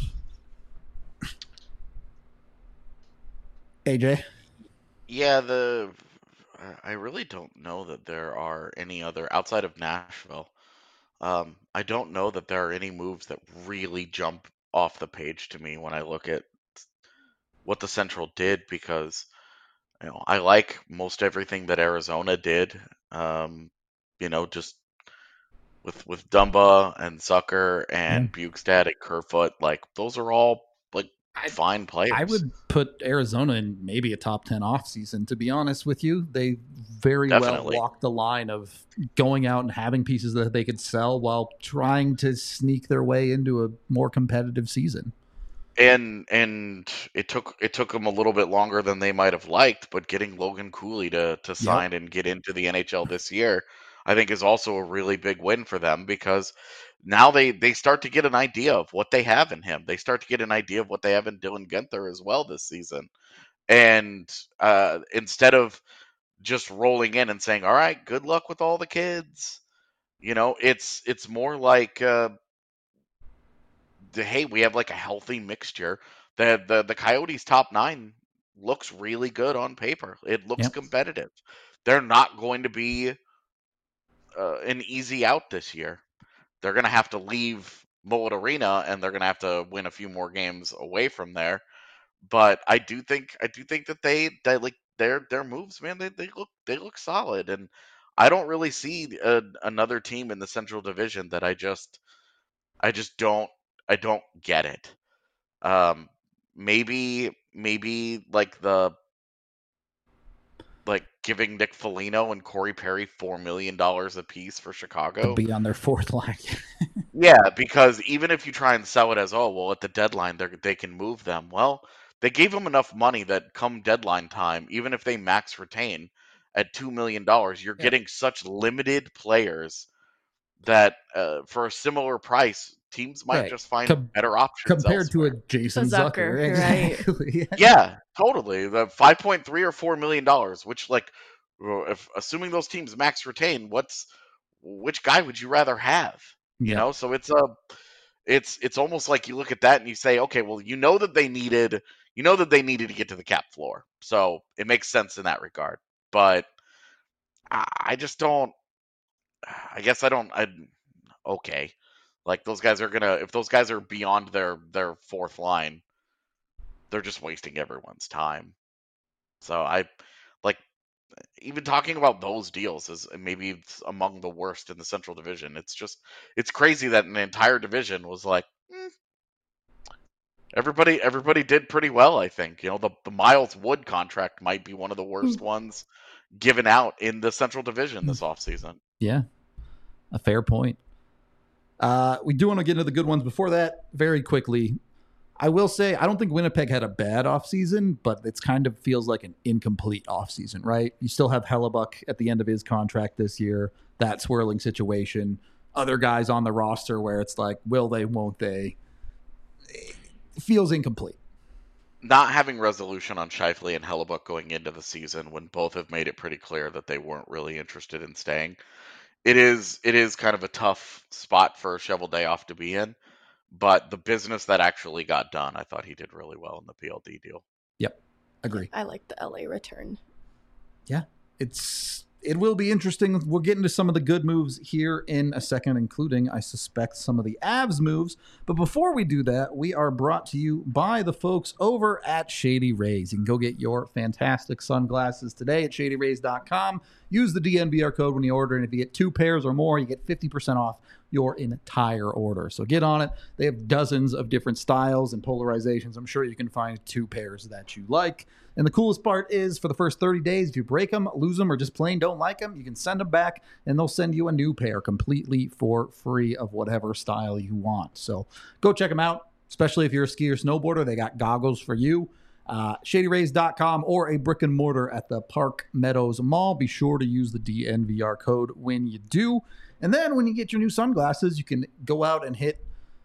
A J? Yeah, the I really don't know that there are any other outside of Nashville. Um, I don't know that there are any moves that really jump off the page to me when I look at what the Central did, because you know I like most everything that Arizona did. Um, you know, just with with Dumba and Sucker and Yeah. Bukestad and Kerfoot, like those are all like I- fine players. I would put Arizona in maybe a top ten offseason, to be honest with you. They very Definitely. well walked the line of going out and having pieces that they could sell while trying to sneak their way into a more competitive season. And and it took it took them a little bit longer than they might have liked, but getting Logan Cooley to to sign and get into the N H L this year, I think is also a really big win for them, because now they they start to get an idea of what they have in him. They start to get an idea of what they have in Dylan Guenther as well this season. And uh, instead of just rolling in and saying, "All right, good luck with all the kids," you know, it's it's more like, uh, the, hey, we have like a healthy mixture. The the the Coyotes top nine looks really good on paper. It looks Yep. competitive. They're not going to be uh, an easy out this year. They're going to have to leave Mullet Arena, and they're going to have to win a few more games away from there. But I do think I do think that they that like their their moves, man, they, they look they look solid, and I don't really see a, another team in the Central Division that I just I just don't I don't get it. Um, maybe maybe like the like giving Nick Foligno and Corey Perry four million dollars a piece for To Chicago. be on their fourth line. Yeah, because even if you try and sell it as, oh well, at the deadline they they can move them. Well, they gave them enough money that come deadline time, even if they max retain at two million dollars, you're Yeah. getting such limited players that uh, for a similar price, teams might Right. just find Com- better options Compared elsewhere. to a Jason A Zucker, Zucker. right. Exactly. Yeah. Yeah, totally. The five point three or four million dollars, which like, well, if assuming those teams max retain, what's which guy would you rather have? You Yeah. know, so it's a, it's it's almost like you look at that and you say, okay, well, you know that they needed, you know that they needed to get to the cap floor, so it makes sense in that regard. But I, I just don't. I guess I don't. I okay, like those guys are gonna, if those guys are beyond their their fourth line, they're just wasting everyone's time. So I like even talking about those deals is maybe it's among the worst in the Central Division. It's just it's crazy that an entire division was like "Hmm, everybody everybody did pretty well. I think you know the the Miles Wood contract might be one of the worst ones given out in the Central Division this offseason. Yeah. A fair point. Uh, we do want to get into the good ones. Before that, very quickly, I will say I don't think Winnipeg had a bad offseason, but it's kind of feels like an incomplete offseason, right? You still have Hellebuck at the end of his contract this year, that swirling situation, other guys on the roster where it's like, will they, won't they? It feels incomplete. Not having resolution on Scheifele and Hellebuck going into the season when both have made it pretty clear that they weren't really interested in staying. It is it is kind of a tough spot for Shovel Dayoff to be in. But the business that actually got done, I thought he did really well in the P L D deal. Yep. Agree. I like the L A return. Yeah. It's it will be interesting. We'll get into some of the good moves here in a second, including, I suspect, some of the Avs moves. But before we do that, we are brought to you by the folks over at Shady Rays. You can go get your fantastic sunglasses today at shady rays dot com. Use the D N V R code when you order, and if you get two pairs or more, you get fifty percent off your entire order. So get on it. They have dozens of different styles and polarizations. I'm sure you can find two pairs that you like. And the coolest part is for the first thirty days, if you break them, lose them, or just plain don't like them, you can send them back and they'll send you a new pair completely for free of whatever style you want. So go check them out, especially if you're a skier or snowboarder. They got goggles for you. Uh, shady rays dot com or a brick and mortar at the Park Meadows Mall. Be sure to use the D N V R code when you do. And then when you get your new sunglasses, you can go out and hit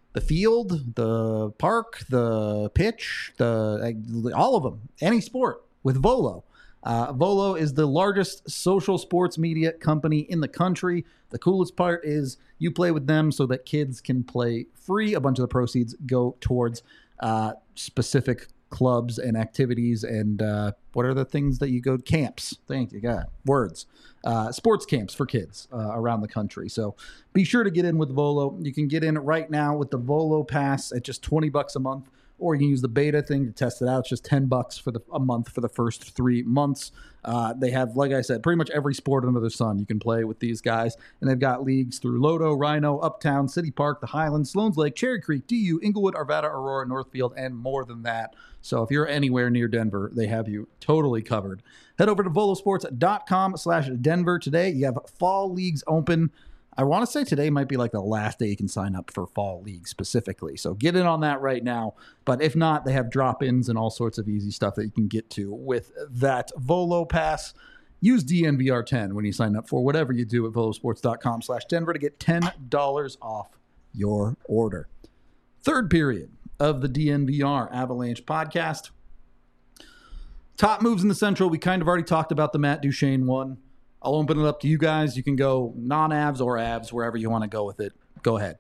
the field, the park, the pitch, the all of them, any sport with Volo. Uh, Volo is the largest social sports media company in the country. The coolest part is you play with them so that kids can play free. A bunch of the proceeds go towards uh, specific clubs and activities and uh, what are the things that you go camps? Thank you, God. Words. Uh, sports camps for kids uh, around the country. So be sure to get in with Volo. You can get in right now with the Volo Pass at just twenty bucks a month, or you can use the beta thing to test it out. It's just ten bucks for the a month for the first three months. Uh, they have, like I said, pretty much every sport under the sun you can play with these guys. And they've got leagues through Lodo, Rhino, Uptown, City Park, the Highlands, Sloan's Lake, Cherry Creek, D U, Inglewood, Arvada, Aurora, Northfield, and more than that. So if you're anywhere near Denver, they have you totally covered. Head over to volosports.com slash Denver today. You have fall leagues open. I want to say today might be like the last day you can sign up for fall league specifically. So get in on that right now. But if not, they have drop-ins and all sorts of easy stuff that you can get to with that Volo Pass. Use D N V R ten when you sign up for whatever you do at volosports.com slash Denver to get ten dollars off your order. Third period of the D N V R Avalanche podcast. Top moves in the Central. We kind of already talked about the Matt Duchene one. I'll open it up to you guys. You can go non-Avs or Avs, wherever you want to go with it. Go ahead.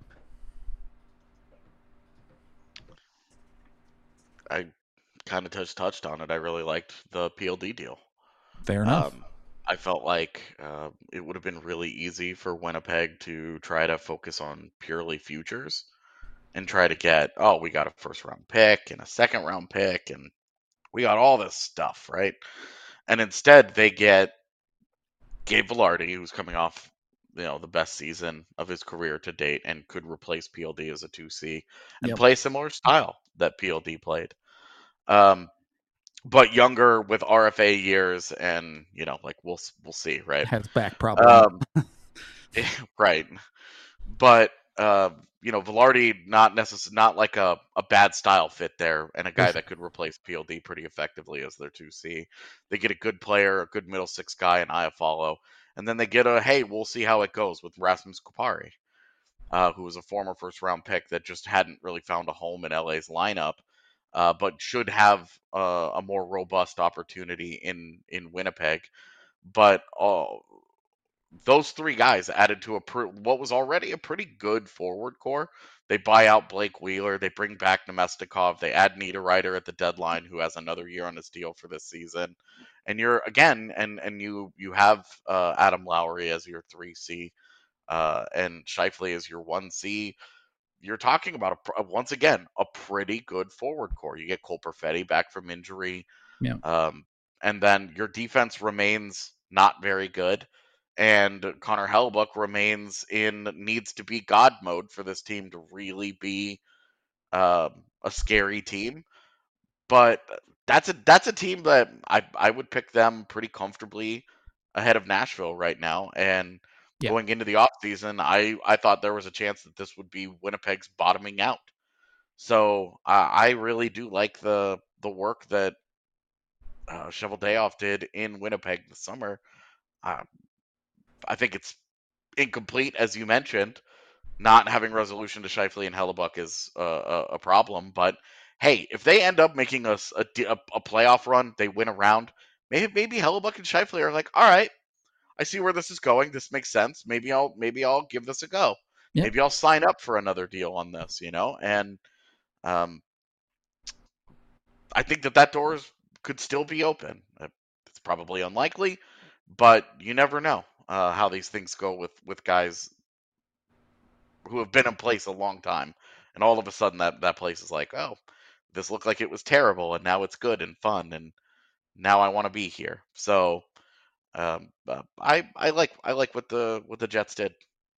I kind of touched touched on it. I really liked the P L D deal. Fair enough. Um, I felt like uh, it would have been really easy for Winnipeg to try to focus on purely futures and try to get, oh, we got a first round pick and a second round pick and we got all this stuff, right? And instead they get Gabe Vilardi, who's coming off, you know, the best season of his career to date and could replace P L D as a two C and Yep. play a similar style that P L D played. Um, but younger with R F A years and, you know, like we'll we'll see, right? Has back problem. Um, right. But, uh, you know, Vilardi, not necess- not like a, a bad style fit there and a guy that could replace P L D pretty effectively as their two C. They get a good player, a good middle six guy in Iafallo. And then they get a, hey, we'll see how it goes with Rasmus Kupari, uh, who was a former first-round pick that just hadn't really found a home in L A's lineup, uh, but should have uh, a more robust opportunity in, in Winnipeg. But uh, those three guys added to a pr- what was already a pretty good forward core. They buy out Blake Wheeler. They bring back Nemestikov. They add Niederreiter at the deadline, who has another year on his deal for this season. And you're again, and and you you have uh, Adam Lowry as your three C, uh, and Scheifele as your one C. You're talking about a, once again a pretty good forward core. You get Cole Perfetti back from injury, Yeah. um, and then your defense remains not very good. And Connor Hellebuyck remains in needs to be God mode for this team to really be uh, a scary team. But that's a that's a team that I I would pick them pretty comfortably ahead of Nashville right now. And Yeah. going into the offseason, I I thought there was a chance that this would be Winnipeg's bottoming out. So uh, I really do like the the work that uh, Cheveldayoff did in Winnipeg this summer. Uh, I think it's incomplete, as you mentioned. Not having resolution to Scheifele and Hellebuyck is a, a, a problem. But hey, if they end up making us a, a, a playoff run, they win a round. Maybe maybe Hellebuyck and Scheifele are like, all right, I see where this is going. This makes sense. Maybe I'll maybe I'll give this a go. Yep. Maybe I'll sign up for another deal on this. You know, and um, I think that that door is, could still be open. It's probably unlikely, but you never know. Uh, how these things go with, with guys who have been in place a long time. And all of a sudden that, that place is like, oh, this looked like it was terrible and now it's good and fun and now I want to be here. So um, uh, I I like I like what the what the Jets did.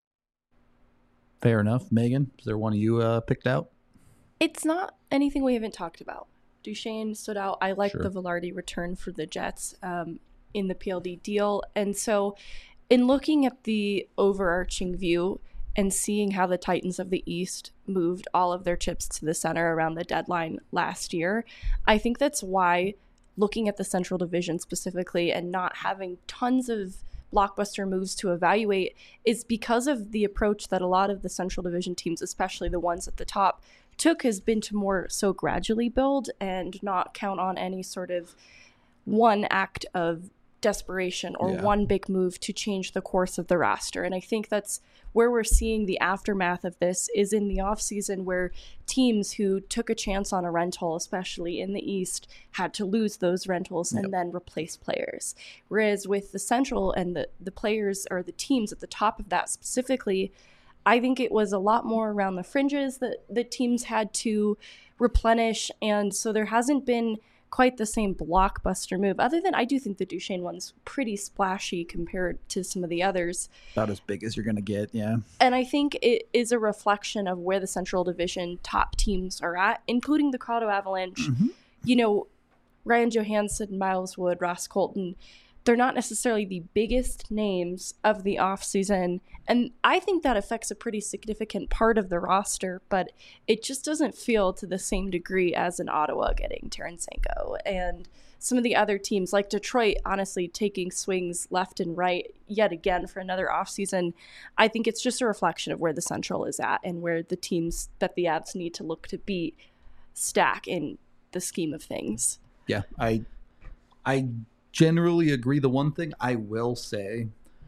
Fair enough. Megan, is there one of you uh, picked out? It's not anything we haven't talked about. Duchene stood out. I like Sure. the Vilardi return for the Jets um, in the P L D deal. And so in looking at the overarching view and seeing how the Titans of the East moved all of their chips to the center around the deadline last year, I think that's why looking at the Central Division specifically and not having tons of blockbuster moves to evaluate is because of the approach that a lot of the Central Division teams, especially the ones at the top, took has been to more so gradually build and not count on any sort of one act of desperation or Yeah. one big move to change the course of the roster. And I think that's where we're seeing the aftermath of this is in the offseason, where teams who took a chance on a rental, especially in the East, had to lose those rentals and Yep. then replace players. Whereas with the Central and the, the players or the teams at the top of that specifically, I think it was a lot more around the fringes that the teams had to replenish. And so there hasn't been quite the same blockbuster move, other than I do think the Duchesne one's pretty splashy compared to some of the others. About as big as you're going to get, yeah. And I think it is a reflection of where the Central Division top teams are at, including the Colorado Avalanche. Mm-hmm. You know, Ryan Johansson, Miles Wood, Ross Colton, they're not necessarily the biggest names of the offseason. And I think that affects a pretty significant part of the roster, but it just doesn't feel to the same degree as in Ottawa getting Tarasenko and some of the other teams like Detroit, honestly, taking swings left and right yet again for another offseason. I think it's just a reflection of where the Central is at and where the teams that the Avs need to look to beat stack in the scheme of things. Yeah, I I generally agree. The one thing I will say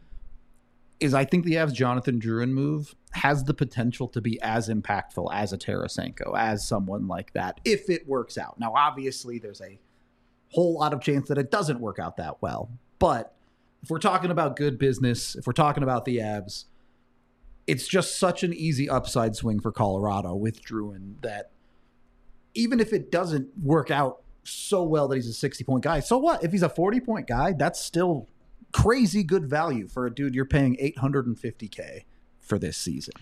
is I think the Avs' Jonathan Drouin move has the potential to be as impactful as a Tarasenko, as someone like that, if it works out. Now, obviously, there's a whole lot of chance that it doesn't work out that well. But if we're talking about good business, if we're talking about the Avs, it's just such an easy upside swing for Colorado with Drouin that even if it doesn't work out so well that he's a sixty-point guy, so what? If he's a forty-point guy, that's still crazy good value for a dude you're paying eight hundred fifty K for this season.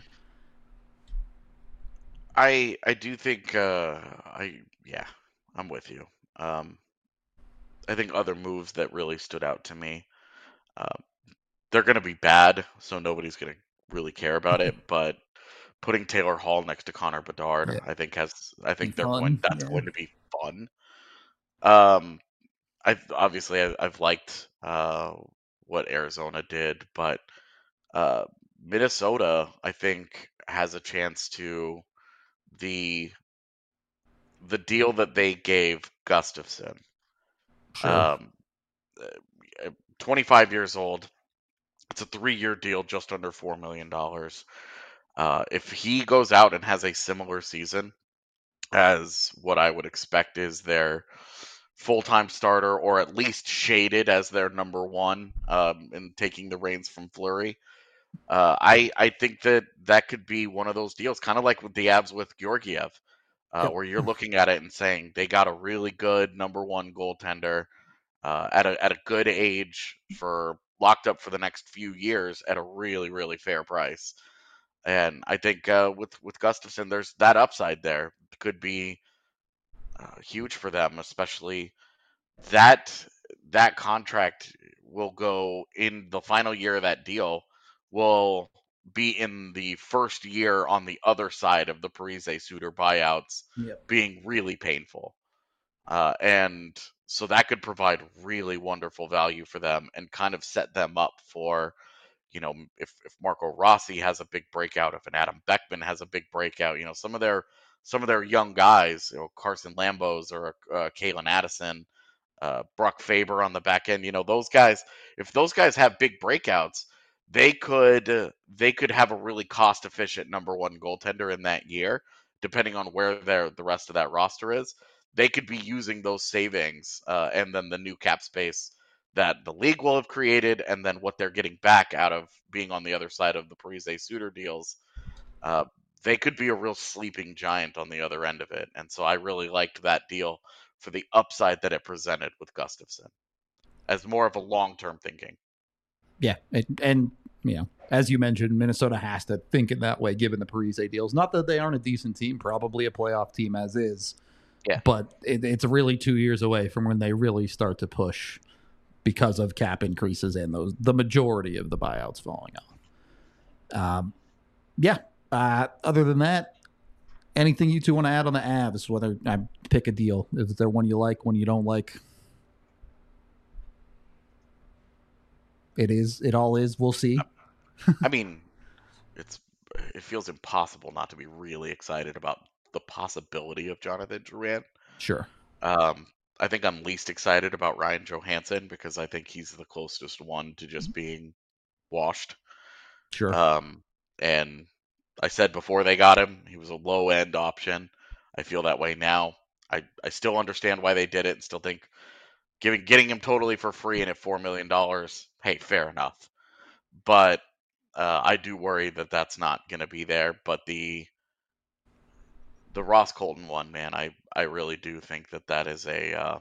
I I do think uh, I yeah I'm with you. Um, I think other moves that really stood out to me, uh, they're going to be bad, so nobody's going to really care about it. But putting Taylor Hall next to Connor Bedard, Yeah. I think has I think Be they're fun, going that's yeah. going to be fun. Um, I've obviously I, I've liked uh, what Arizona did, but uh, Minnesota I think has a chance to the the deal that they gave Gustafsson. Sure. Um, uh, twenty-five years old. It's a three-year deal, just under four million dollars. Uh, if he goes out and has a similar season as what I would expect is their full-time starter, or at least shaded as their number one, um, and taking the reins from Fleury, uh, I I think that that could be one of those deals, kind of like with the Avs with Georgiev, uh, Yep. where you're looking at it and saying they got a really good number one goaltender uh, at a at a good age for locked up for the next few years at a really really fair price. And I think uh, with with Gustafsson, there's that upside there could be uh, huge for them, especially that that contract will go in the final year of that deal will be in the first year on the other side of the Parise Suter buyouts Yep. being really painful. Uh, and so that could provide really wonderful value for them and kind of set them up for, you know, if, if Marco Rossi has a big breakout, if an Adam Beckman has a big breakout, you know, some of their some of their young guys, you know, Carson Lambos or uh, Kalen Addison, uh, Brock Faber on the back end, you know, those guys, if those guys have big breakouts, they could uh, they could have a really cost efficient number one goaltender in that year, depending on where their the rest of that roster is. They could be using those savings uh, and then the new cap space that the league will have created, and then what they're getting back out of being on the other side of the Parise Suter deals. Uh, they could be a real sleeping giant on the other end of it. And so I really liked that deal for the upside that it presented with Gustafsson as more of a long-term thinking. Yeah, it, and you know, as you mentioned, Minnesota has to think in that way, given the Parise deals. Not that they aren't a decent team, probably a playoff team as is. Yeah. But it, it's really two years away from when they really start to push because of cap increases and those the majority of the buyouts falling off. Um, yeah. Uh, other than that, anything you two want to add on the Avs? Whether I pick a deal, is there one you like, one you don't like? It is. It all is. We'll see. I mean, it's it feels impossible not to be really excited about the possibility of Jonathan Drouin. Sure. Um, I think I'm least excited about Ryan Johansson because I think he's the closest one to just being washed. Sure. Um, and I said before they got him, he was a low end option. I feel that way now. I, I still understand why they did it and still think giving getting him totally for free and at four million dollars, hey, fair enough. But uh, I do worry that that's not going to be there. But the the Ross Colton one, man, I, I really do think that that is a uh,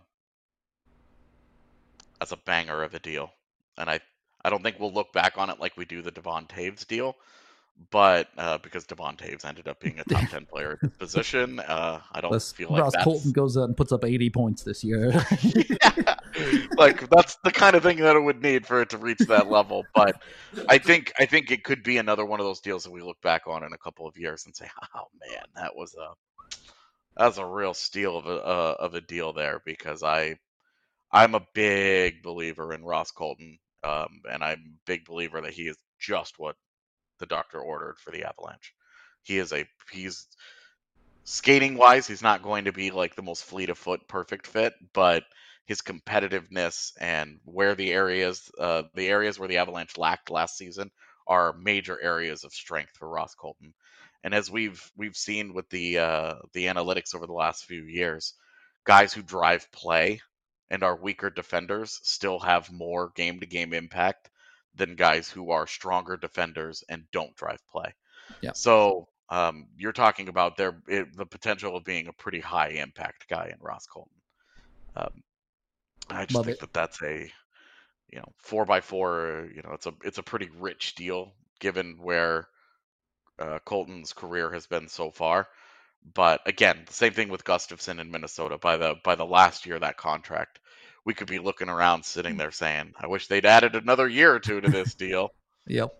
that's a banger of a deal, and I I don't think we'll look back on it like we do the Devon Taves deal, but uh, because Devon Taves ended up being a top ten player at his position, uh, I don't Unless feel like Ross that's Colton goes out and puts up eighty points this year. yeah, like that's the kind of thing that it would need for it to reach that level. But I think I think it could be another one of those deals that we look back on in a couple of years and say, "Oh man, that was a that was a real steal of a uh, of a deal there." Because I I'm a big believer in Ross Colton, um, and I'm a big believer that he is just what the doctor ordered for the Avalanche. He is a he's skating wise, he's not going to be like the most fleet of foot perfect fit, but his competitiveness and where the areas uh, the areas where the Avalanche lacked last season are major areas of strength for Ross Colton. And as we've we've seen with the uh, the analytics over the last few years, guys who drive play and are weaker defenders still have more game to game impact than guys who are stronger defenders and don't drive play. Yeah. So um, you're talking about there it, the potential of being a pretty high impact guy in Ross Colton. Um, I just Love think it. that that's a you know four by four. You know, it's a it's a pretty rich deal given where uh, Colton's career has been so far. But again, the same thing with Gustafsson in Minnesota. By the by the last year of that contract, we could be looking around, sitting there saying, "I wish they'd added another year or two to this deal." Yep.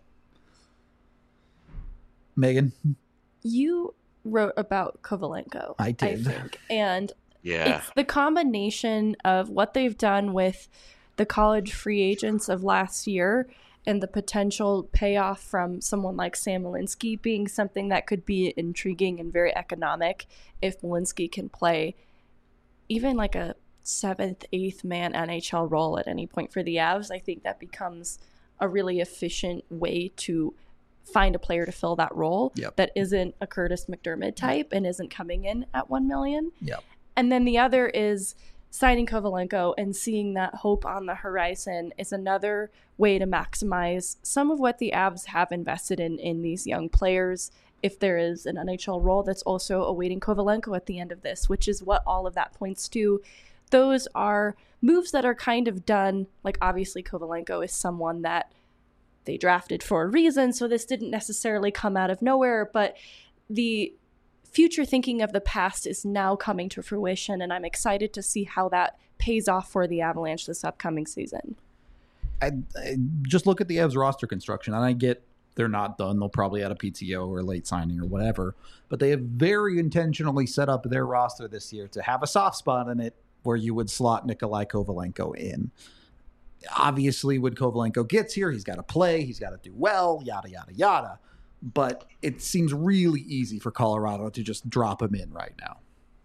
Megan, You wrote about Kovalenko, I I did. think, and Yeah, it's the combination of what they've done with the college free agents of last year and the potential payoff from someone like Sam Malinsky being something that could be intriguing and very economic if Malinsky can play even like a seventh, eighth man N H L role at any point for the Avs. I think that becomes a really efficient way to find a player to fill that role Yep. that isn't a Curtis McDermott type and isn't coming in at one million. Yep. And then the other is signing Kovalenko and seeing that hope on the horizon is another way to maximize some of what the Avs have invested in in these young players. If there is an N H L role that's also awaiting Kovalenko at the end of this, which is what all of that points to. Those are moves that are kind of done. Like, obviously, Kovalenko is someone that they drafted for a reason, so this didn't necessarily come out of nowhere, but the future thinking of the past is now coming to fruition, and I'm excited to see how that pays off for the Avalanche this upcoming season. I, I just look at the Avs roster construction, and I get they're not done. They'll probably add a P T O or a late signing or whatever, but they have very intentionally set up their roster this year to have a soft spot in it where you would slot Nikolai Kovalenko in. Obviously, when Kovalenko gets here, he's got to play, he's got to do well, yada, yada, yada. But it seems really easy for Colorado to just drop him in right now.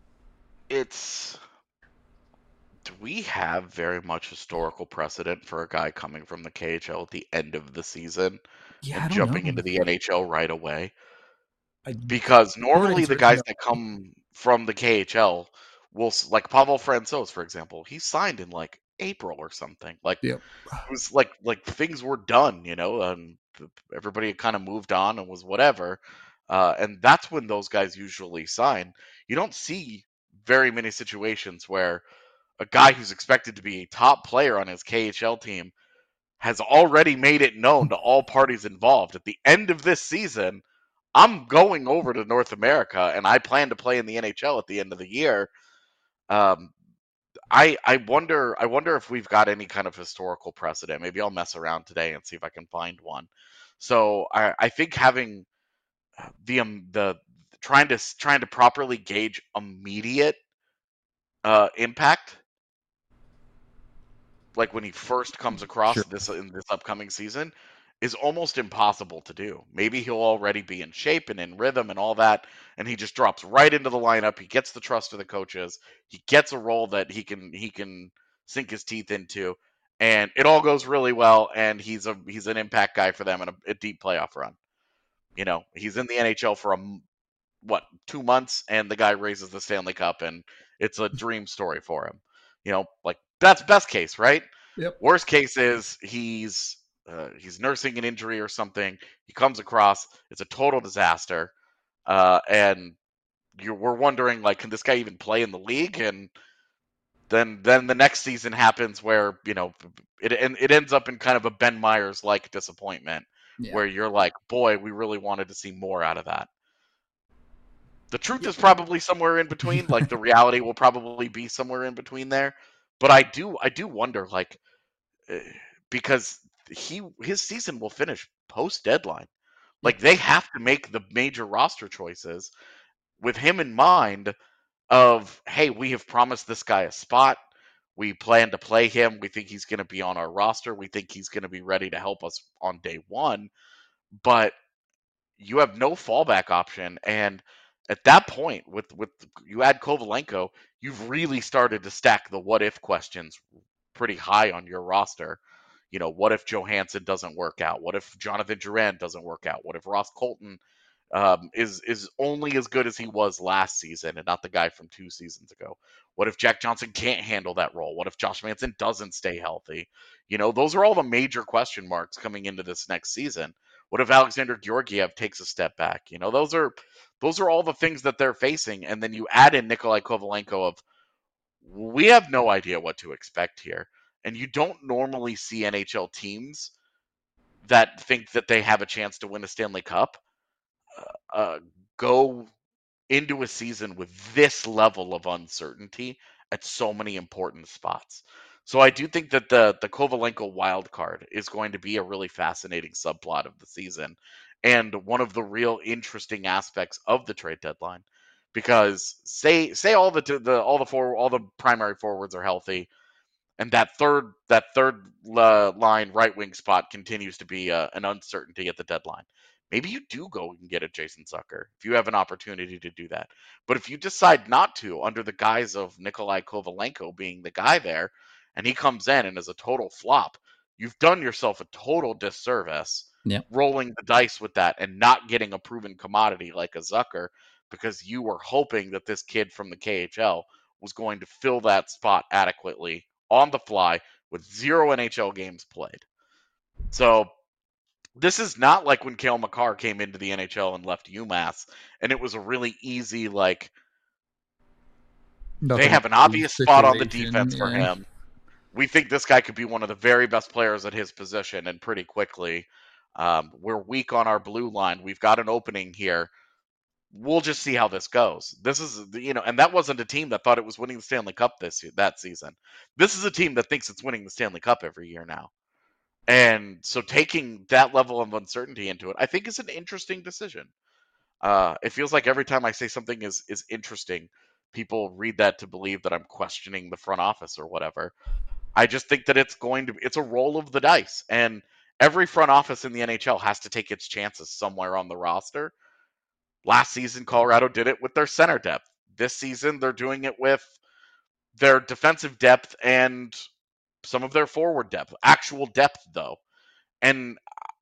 it's do we have very much historical precedent for a guy coming from the K H L at the end of the season Yeah, I and don't jumping know. into the N H L right away? I, Because normally the answer, guys no. that come from the K H L will, s- like Pavel Francouz, for example, he signed in like April or something. Like Yep. it was like like things were done, you know, and th- everybody had kind of moved on and was whatever. Uh, and that's when those guys usually sign. You don't see very many situations where a guy who's expected to be a top player on his K H L team has already made it known to all parties involved at the end of this season, I'm going over to North America and I plan to play in the N H L at the end of the year. Um, I I wonder I wonder if we've got any kind of historical precedent. Maybe I'll mess around today and see if I can find one. So I, I think having the um, the trying to trying to properly gauge immediate uh, impact like when he first comes across Sure. this in this upcoming season, is almost impossible to do. Maybe he'll already be in shape and in rhythm and all that, and he just drops right into the lineup. He gets the trust of the coaches. He gets a role that he can he can sink his teeth into, and it all goes really well. And he's a he's an impact guy for them in a, a deep playoff run. You know, he's in the N H L for a what two months, and the guy raises the Stanley Cup, and it's a dream story for him. You know, like that's best case, right? Yep. Worst case is he's uh, he's nursing an injury or something. He comes across, it's a total disaster, uh, and you're we're wondering like, can this guy even play in the league? And then then the next season happens where you know it it ends up in kind of a Ben Myers like disappointment, Yeah. where you're like, boy, we really wanted to see more out of that. The truth is probably somewhere in between. Like the reality will probably be somewhere in between there. But I do I do wonder like uh, because he his season will finish post deadline. Like they have to make the major roster choices with him in mind of, hey, we have promised this guy a spot. We plan to play him. We think he's going to be on our roster. We think he's going to be ready to help us on day one. But you have no fallback option. And at that point, with with you add Kovalenko, you've really started to stack the what if questions pretty high on your roster. You know, what if Johansson doesn't work out? What if Jonathan Drouin doesn't work out? What if Ross Colton um, is is only as good as he was last season and not the guy from two seasons ago? What if Jack Johnson can't handle that role? What if Josh Manson doesn't stay healthy? You know, those are all the major question marks coming into this next season. What if Alexander Georgiev takes a step back? You know, those are those are all the things that they're facing. And then you add in Nikolai Kovalenko of, we have no idea what to expect here. And you don't normally see N H L teams that think that they have a chance to win a Stanley Cup uh, uh, go into a season with this level of uncertainty at so many important spots. So I do think that the the Kovalenko wild card is going to be a really fascinating subplot of the season and one of the real interesting aspects of the trade deadline. Because say say all the the all the four all the primary forwards are healthy, and that third that third uh, line right wing spot continues to be uh, an uncertainty at the deadline. Maybe you do go and get a Jason Zucker if you have an opportunity to do that. But if you decide not to, under the guise of Nikolai Kovalenko being the guy there, and he comes in and is a total flop, you've done yourself a total disservice Yep. rolling the dice with that and not getting a proven commodity like a Zucker, because you were hoping that this kid from the K H L was going to fill that spot adequately on the fly with zero N H L games played. So this is not like when Cale Makar came into the N H L and left UMass, and it was a really easy, like, Nothing they have an obvious spot on the defense for yeah. him. We think this guy could be one of the very best players at his position, and pretty quickly. Um, we're weak on our blue line. We've got an opening here. We'll just see how this goes. This is, you know, and that wasn't a team that thought it was winning the Stanley Cup this that season. This is a team that thinks it's winning the Stanley Cup every year now. And so taking that level of uncertainty into it, I think is an interesting decision. Uh, it feels like every time I say something is is interesting, people read that to believe that I'm questioning the front office or whatever. I just think that it's going to it's a roll of the dice, and every front office in the N H L has to take its chances somewhere on the roster. Last season, Colorado did it with their center depth. This season, they're doing it with their defensive depth and some of their forward depth, actual depth though. And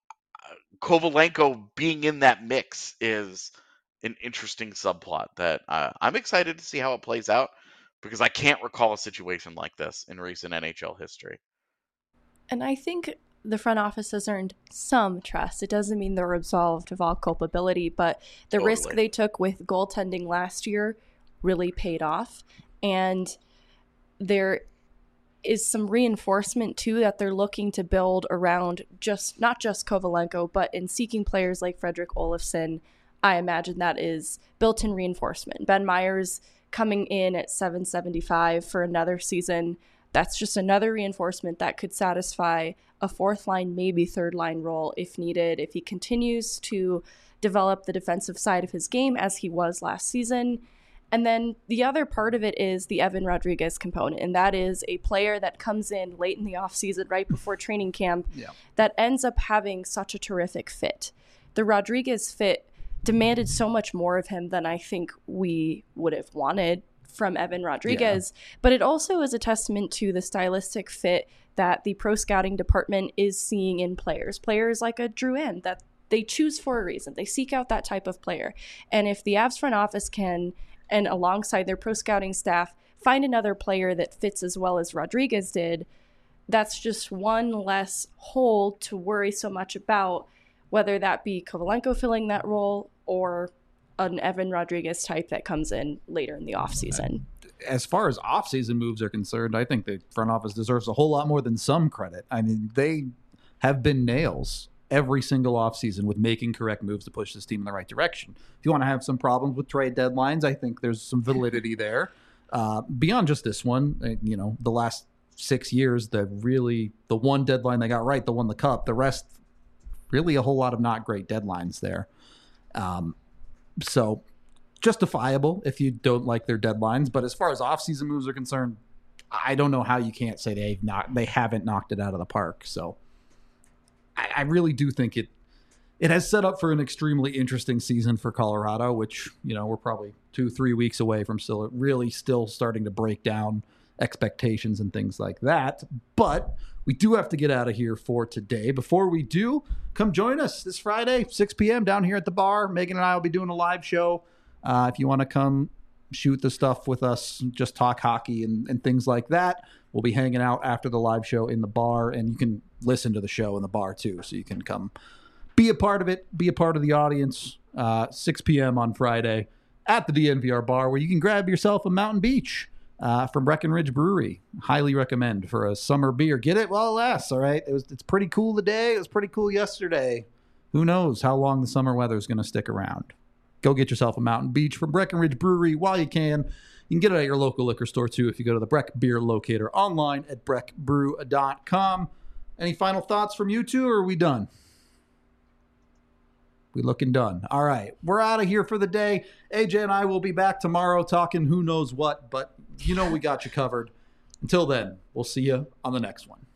Kovalenko being in that mix is an interesting subplot that uh, I'm excited to see how it plays out, because I can't recall a situation like this in recent N H L history. And I think the front office has earned some trust. It doesn't mean they're absolved of all culpability, but the Totally. risk they took with goaltending last year really paid off. And there is some reinforcement too that they're looking to build around just not just Kovalenko, but in seeking players like Fredrik Olofsson. I imagine that is built-in reinforcement. Ben Myers coming in at seven seventy-five for another season. That's just another reinforcement that could satisfy a fourth line, maybe third line role if needed. If he continues to develop the defensive side of his game as he was last season, And then the other part of it is the Evan Rodriguez component, and that is a player that comes in late in the offseason, right before training camp, yeah. that ends up having such a terrific fit. The Rodriguez fit demanded so much more of him than I think we would have wanted from Evan Rodriguez, yeah. but it also is a testament to the stylistic fit that the pro scouting department is seeing in players. Players like a Drouin that they choose for a reason. They seek out that type of player. And if the Avs front office can, and alongside their pro scouting staff, find another player that fits as well as Rodriguez did, that's just one less hole to worry so much about, whether that be Kovalenko filling that role or an Evan Rodriguez type that comes in later in the offseason. As far as offseason moves are concerned, I think the front office deserves a whole lot more than some credit. I mean, they have been nails every single offseason with making correct moves to push this team in the right direction. If you want to have some problems with trade deadlines, I think there's some validity there. Uh, beyond just this one, you know, the last six years, the really, the one deadline they got right, the won the cup, the rest, really a whole lot of not great deadlines there. Um, so justifiable if you don't like their deadlines. But as far as offseason moves are concerned, I don't know how you can't say they've not, they haven't knocked it out of the park. So I, I really do think it, it has set up for an extremely interesting season for Colorado, which, you know, we're probably two, three weeks away from still really still starting to break down expectations and things like that. But we do have to get out of here for today. Before we do, come join us this Friday, six p.m. down here at the bar. Megan and I will be doing a live show. Uh, if you want to come shoot the stuff with us, just talk hockey and, and things like that, we'll be hanging out after the live show in the bar, and you can listen to the show in the bar too. So you can come be a part of it, be a part of the audience, uh, six p.m. on Friday at the D N V R bar, where you can grab yourself a Mountain Beach uh, from Breckenridge Brewery. Highly recommend for a summer beer. Get it while it lasts, all right? It was, it's pretty cool today. It was pretty cool yesterday. Who knows how long the summer weather is going to stick around. Go get yourself a Mountain Beach from Breckenridge Brewery while you can. You can get it at your local liquor store, too, if you go to the Breck Beer Locator online at breck brew dot com. Any final thoughts from you two, or are we done? We looking done. All right, we're out of here for the day. A J and I will be back tomorrow talking who knows what, but you know we got you covered. Until then, we'll see you on the next one.